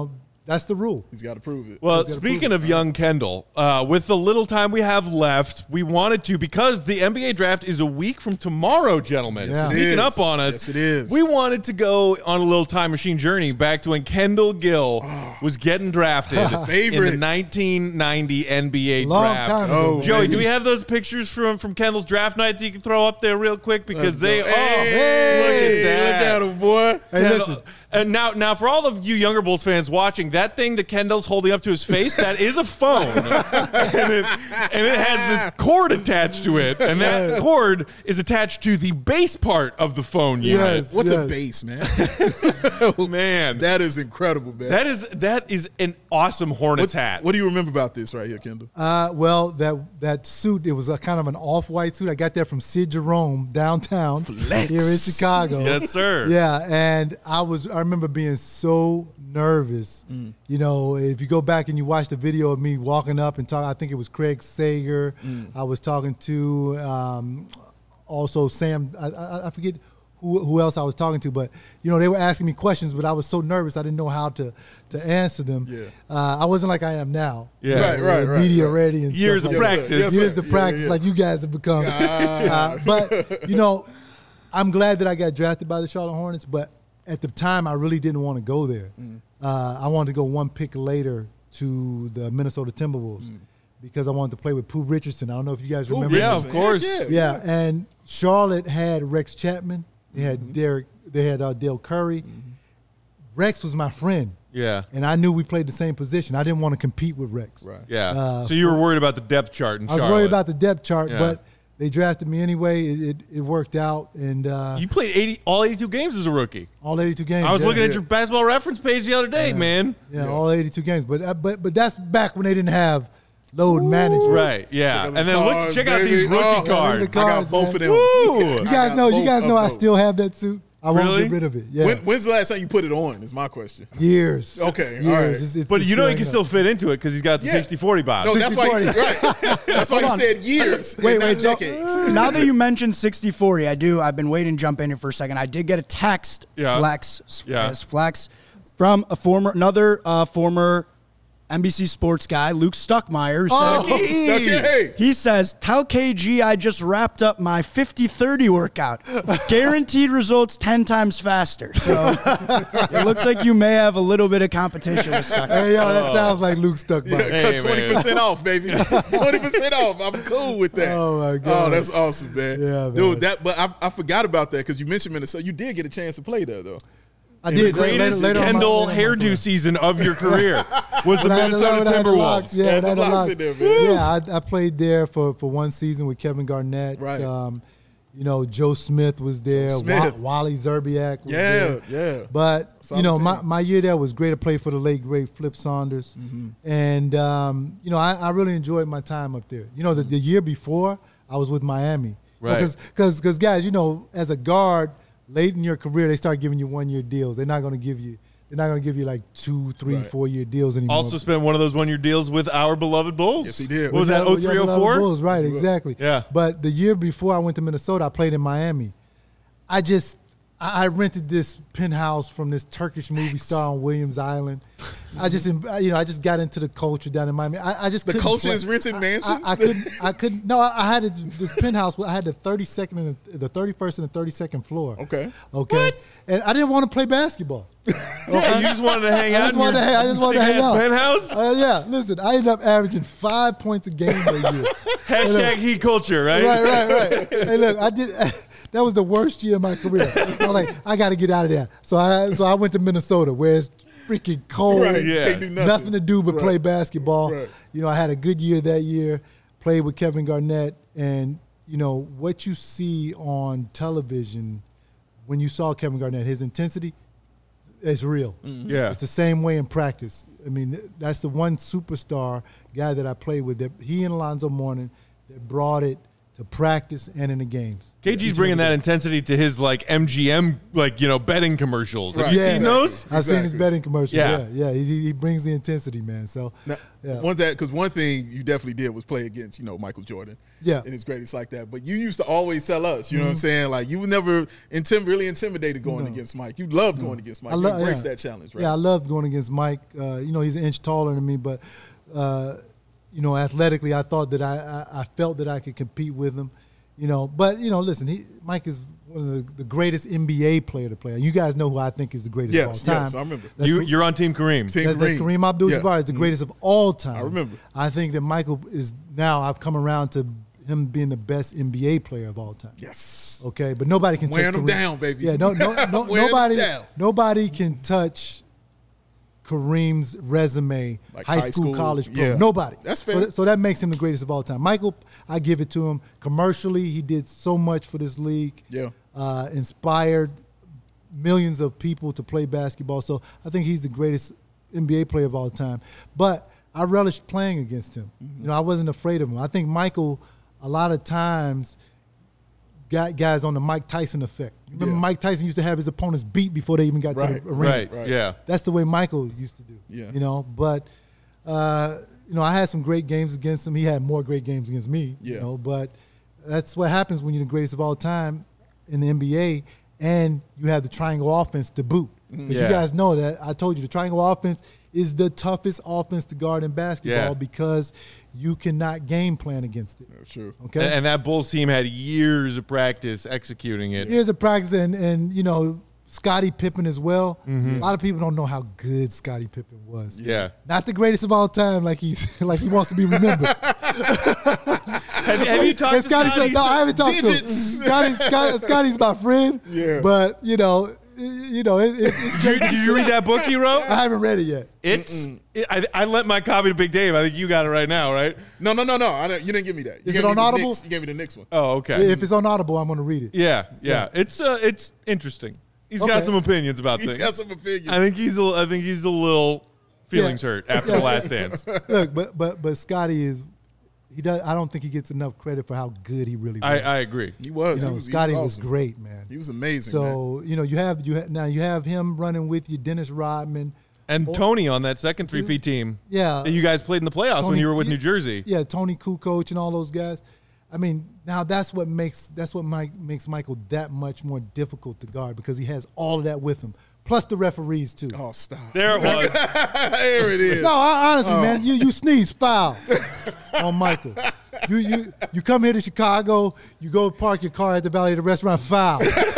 that's the rule. He's got to prove it. Well, gotta speaking prove of young Kendall, uh, with the little time we have left, we wanted to, because the N B A draft is a week from tomorrow, gentlemen. Yes, it Sneaking is. up on us. Yes, it is. We wanted to go on a little time machine journey back to when Kendall Gill was getting drafted in Favorite. the nineteen ninety N B A Long draft. time ago. Oh, Joey, man. do we have those pictures from, from Kendall's draft night that you can throw up there real quick? Because they, oh, Hey, look at that. Look at him, boy. Hey, Kendall- listen. and now, now for all of you younger Bulls fans watching, that thing that Kendall's holding up to his face, that is a phone, and, it, and it has this cord attached to it, and that cord is attached to the base part of the phone unit. Yes. What's a Yes. base, man? Man, that, That is incredible, man. that is that is an awesome Hornets what, hat. What do you remember about this right here, Kendall? Uh, well, that that suit, it was a kind of an off-white suit. I got that from Sid Jerome downtown Flex. here in Chicago. Yes, sir. Yeah, and I was I remember being so nervous. Mm. You know, if you go back and you watch the video of me walking up and talking, I think it was Craig Sager. Mm. I was talking to um, also Sam. I, I, I forget who who else I was talking to, but you know they were asking me questions, but I was so nervous I didn't know how to to answer them. Yeah. Uh, I wasn't like I am now. Yeah. Right, right, right, Media right. ready and Years stuff of like Yes, that. sir. Yes, Years sir. of practice, Yeah, yeah. like you guys have become. Uh, but you know, I'm glad that I got drafted by the Charlotte Hornets. But at the time, I really didn't want to go there. Mm. Uh, I wanted to go one pick later to the Minnesota Timberwolves because I wanted to play with Pooh Richardson. I don't know if you guys Ooh, remember. yeah, that. of Richardson. course. Heck Yeah, and Charlotte had Rex Chapman. They had Mm-hmm. Derek. They had uh, Dale Curry. Rex was my friend, Yeah. and I knew we played the same position. I didn't want to compete with Rex. Right. Yeah. Uh, so you were worried about the depth chart in I was Charlotte. worried about the depth chart, Yeah. but they drafted me anyway. It, it, it worked out, and uh, You played eighty all eighty-two games as a rookie. all eighty-two games. I was yeah. looking at yeah. your basketball reference page the other day, man. yeah, all eighty-two games. But uh, but but that's back when they didn't have load management. Right, yeah. Check out And the then look, cards, check out baby. these rookie Oh, cards. the I got cards, both man. of them. Woo! You I guys got know. You both guys of know I those. still have that suit. I won't Really? get rid of it. Yeah, When, when's the last time you put it on? Is my question. years. Okay, years. all right. It's- it's- But it's you know he hanging can up. still fit into it because he's got the Yeah. sixty forty bob. No, that's why. sixty forty. Right. That's why Hold you on. said years. Wait, and not wait, so- decades. Now that you mentioned sixty forty, I do. I've been waiting to jump in here for a second. I did get a text, Yeah. flex, Yeah. yes, flex, from a former, another uh, former N B C Sports guy, Luke Stuckmeyer, who Oh, said, Okay. he says, tell K G I just wrapped up my fifty thirty workout. Guaranteed results ten times faster. So it looks like you may have a little bit of competition with Stuckmeyer. Hey yo, that sounds like Luke stuck by. Yeah, Hey, cut twenty percent off, baby. twenty percent off. I'm cool with that. Oh, my God. Oh, that's awesome, man. Yeah, man. Dude, that. But I, I forgot about that because you mentioned Minnesota. You did get a chance to play there, though. I did later- Greatest later on my- Kendall later on my hair career. hairdo season of your career was the When I had the- Minnesota when I had the locks, Timberwolves. Yeah, Yeah, when I had the the locks locks. in there, man. Yeah, I, I played there for, for one season with Kevin Garnett. Right. Um, you know, Joe Smith was there. Smith. Wa- Wally Zerbiak was Yeah, there. yeah. But, Solid you know, team. my, my year there was great to play for the late, great Flip Saunders. Mm-hmm. And, um, you know, I, I really enjoyed my time up there. You know, the, the year before, I was with Miami. Right. Because, because, guys, you know, as a guard, late in your career, they start giving you one-year deals. They're not going to give you – they're not going to give you like two, three, Right. four-year deals anymore. Also spent one of those one-year deals with our beloved Bulls. Yes, he did. What was that, oh Yeah, three oh Beloved four? Bulls, right, exactly. Yeah. But the year before I went to Minnesota, I played in Miami. I just I I rented this penthouse from this Turkish movie star on Williams Island. I just you know I just got into the culture down in Miami. I, I just The couldn't culture play- is renting I- mansions? I, I couldn't. I couldn't. No, I, I had it- this penthouse. I had the thirty-second and the, the thirty-first and the thirty-second floor. Okay. Okay. And I didn't want to play basketball. Yeah, you just wanted to hang I out just in wanted your to hang- I just wanted to hang sick-ass out. penthouse? Uh, yeah. Listen, I ended up averaging five points a game that year. Hashtag heat culture, right? Right, right, right. Hey, look, I did. That was the worst year of my career. I was like, I got to get out of there. So I, so I went to Minnesota, where it's freaking cold. Right. Yeah. Can't do nothing. Nothing to do but Right. play basketball. Right. You know, I had a good year that year. Played with Kevin Garnett, and you know what you see on television when you saw Kevin Garnett, his intensity is real. Yeah. It's the same way in practice. I mean, that's the one superstar guy that I played with. That he and Alonzo Mourning that brought it to practice and in the games. K G's Each bringing and that every intensity to his like M G M, like, you know, betting commercials. Have Right. you Yeah. seen Exactly. those? I've seen his Exactly. betting commercials. Yeah. Yeah, yeah. He, he brings the intensity, man. So, Now, yeah. one that because one thing you definitely did was play against, you know, Michael Jordan. Yeah. And it's greatest like that. But you used to always tell us, you know what I'm Mm-hmm. saying? Like you were never intim- really intimidated going No. against Mike. You loved going against Mike. I You lo- embraced yeah. that challenge, right? Yeah, I loved going against Mike. Uh, you know, he's an inch taller than me, but uh, you know, athletically, I thought that I, I I felt that I could compete with him. You know, but you know, listen, he Mike is one of the, the greatest N B A player to play. You guys know who I think is the greatest Yes, of all time. yes, I remember. That's You, Ka- you're on Team Kareem. Team that's, that's Kareem. Kareem Abdul-Jabbar Yeah. is the greatest of all time. I remember. I think that Michael is now. I've come around to him being the best N B A player of all time. Yes. Okay, but nobody can Wearing touch them Kareem. down, baby. Yeah, no, no, no Wearing nobody, them down. nobody can touch Kareem's resume, Like high, high school, school, college, pro. yeah. Nobody. That's So, fair. that- so that makes him the greatest of all time. Michael, I give it to him. Commercially, he did so much for this league. Yeah. Uh, inspired millions of people to play basketball. So I think he's the greatest N B A player of all time. But I relished playing against him. Mm-hmm. You know, I wasn't afraid of him. I think Michael, a lot of times, got guys on the Mike Tyson effect. You remember Yeah. Mike Tyson used to have his opponents beat before they even got Right, to the arena. Right, Right. yeah. That's the way Michael used to do. Yeah. You know, but uh, you know, I had some great games against him. He had more great games against me. Yeah. You know, but that's what happens when you're the greatest of all time in the N B A and you have the triangle offense to boot. But Yeah. you guys know that I told you the triangle offense is the toughest offense to guard in basketball Yeah. because you cannot game plan against it. That's true. Okay. And, and that Bulls team had years of practice executing it. Here's a practice, and, and you know, Scottie Pippen as well. Mm-hmm. A lot of people don't know how good Scottie Pippen was. Yeah. Not the greatest of all time, like he's like he wants to be remembered. Have, have you talked And to Scotty Scotty? said, no, I haven't talked Digits. to him. Scotty, Scotty, Scotty's my friend. Yeah. But you know, you know, it, it, it's Did you, did you read that book he wrote? I haven't read it yet. It's. It, I, I lent my copy to Big Dave. I think you got it right now, right? No, no, no, no. I don't, you didn't give me that. You Is gave it me on the Audible? Knicks- You gave me the Knicks one. Oh, okay. If it's on Audible, I'm going to read it. yeah, yeah, It's uh, it's interesting. He's got Okay. some opinions about He's things. got some opinions. I think he's. A, I think he's a little feelings Yeah. hurt after the last dance. Look, but but but Scotty is he does. I don't think he gets enough credit for how good he really was. I, I agree. He was. you he know, was, he Scotty was, was awesome. great, man. He was amazing. man. So you know, you have you ha- now you have him running with you, Dennis Rodman. And Tony on that second three-peat team. Yeah. that you guys played in the playoffs when Tony- you were with yeah, New Jersey. Yeah, Tony Kukoc and all those guys. I mean, now that's what makes that's what Mike makes Michael that much more difficult to guard because he has all of that with him, plus the referees too. Oh, stop. There it was. there it is. No, I, honestly, Oh. man, you you sneeze foul on Michael. You you you come here to Chicago, you go park your car at the Valley of the restaurant, foul.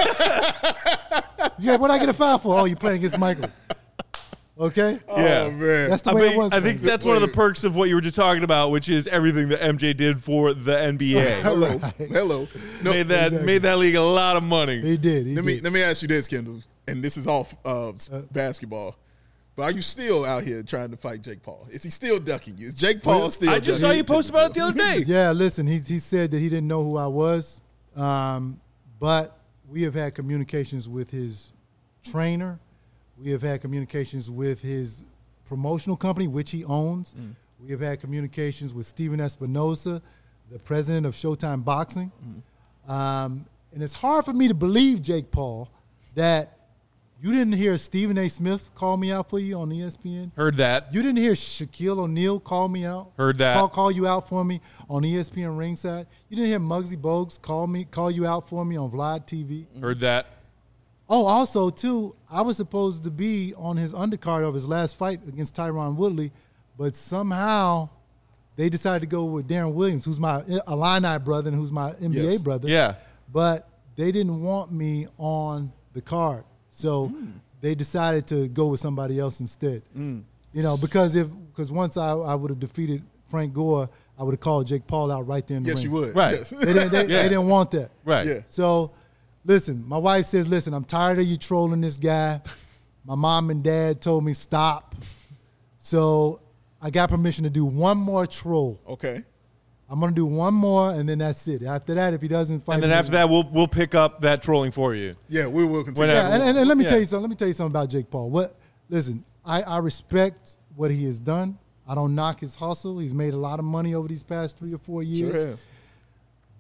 Yeah, what I get a foul for? Oh, you playing against Michael. Okay, Yeah. Oh, man. that's the I, way mean, it was. I think baby. that's one of the Wait. perks of what you were just talking about, which is everything that M J did for the N B A. Hello. Right. Hello. No, made that exactly. made that league a lot of money. he did. He let me did. let me ask you this, Kendall, and this is off uh, basketball. But are you still out here trying to fight Jake Paul? Is he still ducking you? Is Jake Paul Well, still? I just saw ducking you post about it the other day. Yeah, listen, he he said that he didn't know who I was, um, but we have had communications with his trainer. We have had communications with his promotional company, which he owns. Mm. We have had communications with Steven Espinosa, the president of Showtime Boxing. Mm. Um, and it's hard for me to believe, Jake Paul, that you didn't hear Stephen A. Smith call me out for you on E S P N. Heard that. You didn't hear Shaquille O'Neal call me out. Heard that. Call, call you out for me on E S P N Ringside. You didn't hear Muggsy Bogues call me, call you out for me on Vlad T V. Heard that. Oh, also too, I was supposed to be on his undercard of his last fight against Tyron Woodley, but somehow they decided to go with Darren Williams, who's my Illini brother and who's my N B A Yes. brother. Yeah. But they didn't want me on the card, so they decided to go with somebody else instead. You know, because if because once I, I would have defeated Frank Gore, I would have called Jake Paul out right there in the Yes, ring. you would. Right. Yes. They didn't, they, Yeah. they didn't want that. Right. Yeah. So, listen, my wife says, listen, I'm tired of you trolling this guy. My mom and dad told me stop. So I got permission to do one more troll. Okay. I'm going to do one more, and then that's it. After that, if he doesn't fight And then me- after that, we'll we'll pick up that trolling for you. Yeah, we will continue. Whenever. Yeah, and, and, and let me Yeah. tell you something. Let me tell you something about Jake Paul. What? Listen, I, I respect what he has done. I don't knock his hustle. He's made a lot of money over these past three or four Sure years. has.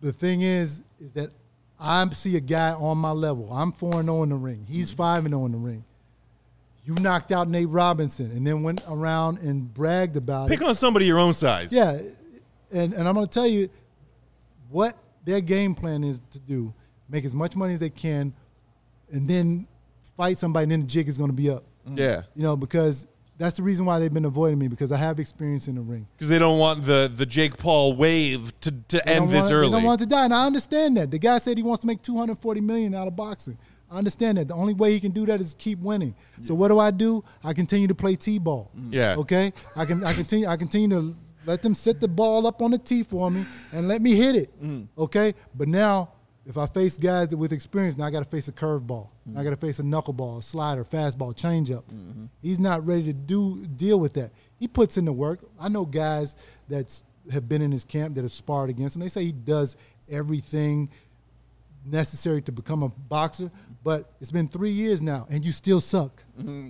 the thing is, is that I see a guy on my level. I'm four and zero in the ring. He's five and zero in the ring. You knocked out Nate Robinson, and then went around and bragged about Pick it. on somebody your own size. Yeah, and and I'm going to tell you what their game plan is to do: make as much money as they can, and then fight somebody, and then the jig is going to be up. Yeah. You know, because that's the reason why they've been avoiding me, because I have experience in the ring. Because they don't want the, the Jake Paul wave to, to They end don't this want, early. They don't want to die, and I understand that. The guy said he wants to make two hundred forty million dollars out of boxing. I understand that. The only way he can do that is keep winning. Yeah. So what do I do? I continue to play T-ball. Yeah. Okay? I can I continue I continue to let them set the ball up on the tee for me and let me hit it. Mm. Okay? But now, if I face guys that with experience, now I got to face a curveball. Mm. I got to face a knuckleball, a slider, fastball, changeup. Mm-hmm. He's not ready to do deal with that. He puts in the work. I know guys that have been in his camp that have sparred against him. They say he does everything necessary to become a boxer, but it's been three years now, and you still suck. Mm-hmm.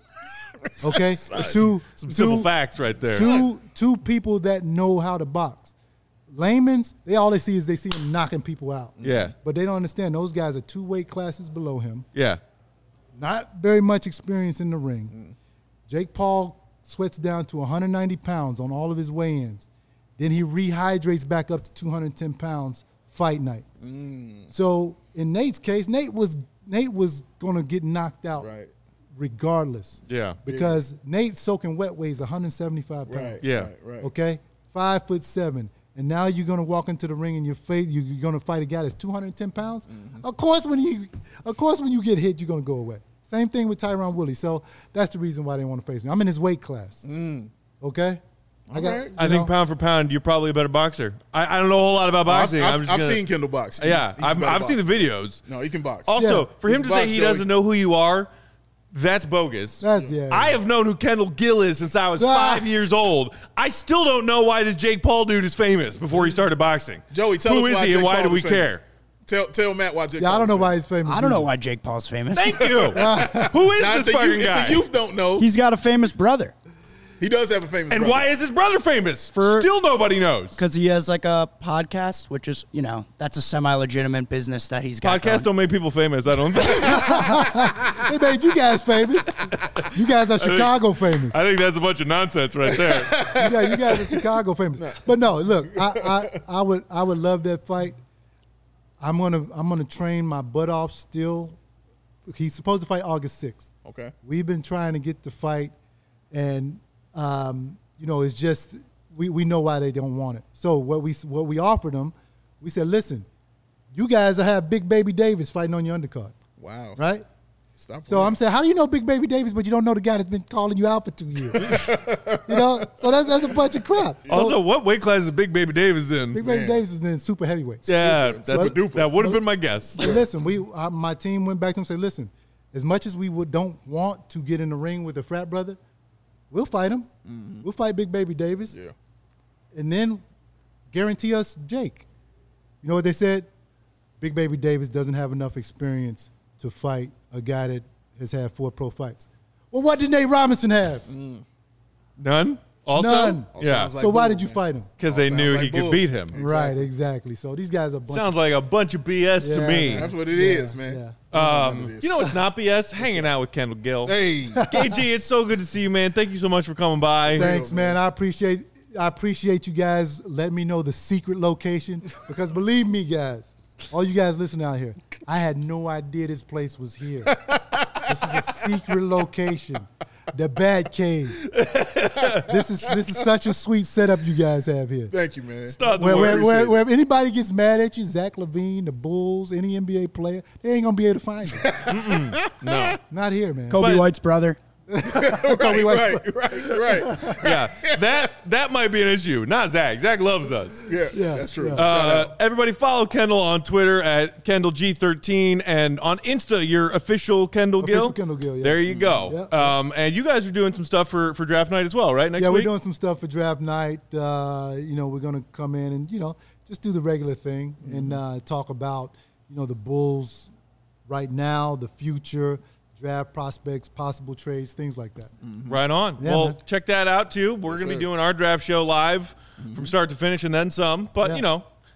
Okay? two, Some two, simple facts right there. Two, two people that know how to box. Layman's, they all they see is they see him knocking people out. Yeah. But they don't understand those guys are two weight classes below him. Yeah. Not very much experience in the ring. Mm. Jake Paul sweats down to one hundred ninety pounds on all of his weigh-ins. Then he rehydrates back up to two hundred ten pounds fight night. Mm. So in Nate's case, Nate was Nate was gonna get knocked out right. regardless. Yeah. Because yeah. Nate soaking wet weighs one hundred seventy-five pounds. Right. Yeah. Right, right. Okay? Five foot seven. And now you're gonna walk into the ring and you're fa- you're gonna fight a guy that's two hundred ten pounds. Mm-hmm. Of course, when you, of course, when you get hit, you're gonna go away. Same thing with Tyron Woodley. So that's the reason why they want to face me. I'm in his weight class. Mm. Okay. I got. Okay. I know, think pound for pound, you're probably a better boxer. I, I don't know a whole lot about boxing. I've, I'm I've, just I've gonna, seen Kendall box. Yeah, He's a I've, better I've seen the boxer. videos. No, he can box. Also, Yeah. for him He to can say box, he Joey. doesn't know who you are, that's bogus. That's yeah. I have known who Kendall Gill is since I was Ah. five years old. I still don't know why this Jake Paul dude is famous before he started boxing. Joey, tell who us is why he and Jake why Paul do we is famous. care? Tell tell Matt why Jake Yeah, Paul I don't is know famous. why he's famous. I don't know either. why Jake Paul's famous. Thank you. Who is Now, this if the fucking youth, guy? If the youth don't know, He's got a famous brother he does have a famous and brother. why is his brother famous? For- Still nobody knows. because he has like a podcast, which is, you know, that's a semi-legitimate business that he's got. Podcasts going. don't make people famous, I don't think. They made you guys famous. You guys are Chicago famous. I think that's a bunch of nonsense right there. Yeah, you guys are Chicago famous. But no, look, I, I, I would I would love that fight. I'm gonna I'm gonna train my butt off still. He's supposed to fight August sixth. Okay. We've been trying to get the fight, and um, you know, it's just we, we know why they don't want it. So what we what we offered them, we said, listen, you guys will have Big Baby Davis fighting on your undercard, Wow. right? Stop. So I'm saying, how do you know Big Baby Davis, but you don't know the guy that's been calling you out for two years? You know, so that's that's a bunch of crap. Also, So what weight class is Big Baby Davis in? Big Baby Man. Davis is in super heavyweight. yeah, Super. that's Super a, duper. that would have been my guess. But listen, we uh, my team went back to him and said, listen, as much as we would don't want to get in the ring with a frat brother, we'll fight him. Mm-hmm. We'll fight Big Baby Davis. Yeah. And then guarantee us Jake. You know what they said? Big Baby Davis doesn't have enough experience to fight a guy that has had four pro fights. Well, what did Nate Robinson have? Mm. None? Also? None. All Yeah. sounds like so why bull, did you man. fight him? Because All they sounds knew like he could bull. beat him. Exactly. Right, exactly. So these guys are a bunch Sounds of, like a bunch of B S to Yeah, me. man. That's what it is, man. yeah. Um, you know what's not B S? Hanging out with Kendall Gill. Hey. K G, it's so good to see you, man. Thank you so much for coming by. Thanks, man. I appreciate I appreciate you guys letting me know the secret location because believe me, guys, all you guys listening out here, I had no idea this place was here. This is a secret location, the Bat Cave. This is this is such a sweet setup you guys have here. Thank you, man. Not the Where, where, worst. where, where if anybody gets mad at you, Zach LaVine, the Bulls, any N B A player, they ain't gonna be able to find you. No. Not here, man. Kobe But- White's brother. right, right, right, right. Yeah, that that might be an issue. Not Zach. Zach loves us. Yeah, Yeah, that's true. yeah. Shout Uh, out. everybody follow Kendall on Twitter at Kendall G thirteen and on Insta, your official Kendall Gill. Official Kendall Gill, yeah. There you go. Yeah. Um, and you guys are doing some stuff for, for draft night as well, right? Next yeah, week? we're doing some stuff for draft night. Uh, you know, we're gonna come in and you know just do the regular thing Mm-hmm. and uh, talk about you know the Bulls right now, the future, draft prospects, possible trades, things like that. Right on. Yeah, well, man. check that out too. We're Yes, going to be sir. doing our draft show live from start to finish and then some. But, Yeah. you know,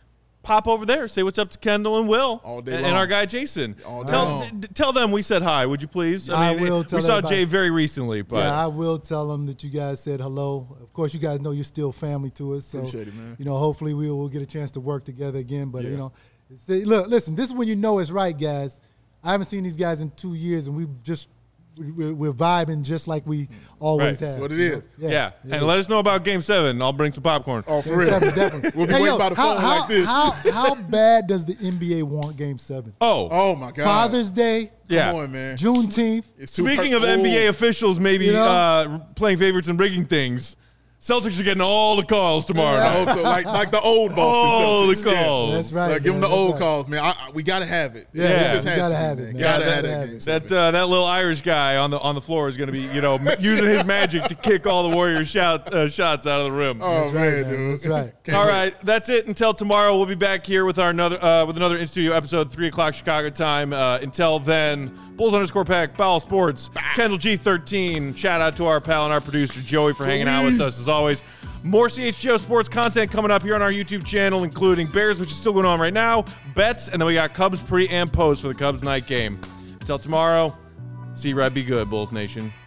pop over there. Say what's up to Kendall and Will. All day and, long. and our guy Jason. All day tell, long. d- tell them we said hi, would you please? I mean, will We tell saw everybody. Jay very recently, but Yeah, I will tell them that you guys said hello. Of course, you guys know you're still family to us. So, Appreciate it, man. you know, hopefully we will get a chance to work together again. But, Yeah. you know, it's, look, listen, this is when you know it's right, guys. I haven't seen these guys in two years, and we just we're, we're vibing just like we always Right. have. That's what it you know? is. yeah. it And is. let us know about Game Seven. I'll bring some popcorn. Oh, for Game real. seven, definitely. We'll be Hey, waiting yo, by the how, phone how, like this. How, how bad does the N B A want Game Seven? Oh, Oh, my God. Father's Day, yeah. Come on, man. Juneteenth. It's too Speaking per- of N B A Oh. officials maybe You know? uh, playing favorites and rigging things, Celtics are getting all the calls tomorrow. I hope so. Like, like the old Boston All the Celtics. Yeah. calls. That's right. Like, give them man, the that's old right. calls, man. I, I, we gotta have it. Yeah, it just we has gotta to, have man. it, man. Gotta Yeah, have gotta that have game. it. That uh, that little Irish guy on the on the floor is going to be, you know, using his magic to kick all the Warriors shout, uh, shots out of the rim. Oh That's man, right, man. dude. That's right. Can't All wait. right, that's it. Until tomorrow, we'll be back here with our another uh, with another in studio episode, three o'clock Chicago time. Uh, until then, Bulls underscore Pack, Bowel Sports, Kendall G thirteen. Shout out to our pal and our producer Joey for hanging out with us as always. More C H G O sports content coming up here on our YouTube channel, including Bears, which is still going on right now, bets, and then we got Cubs pre and post for the Cubs night game. Until tomorrow, see you right, be good, Bulls Nation.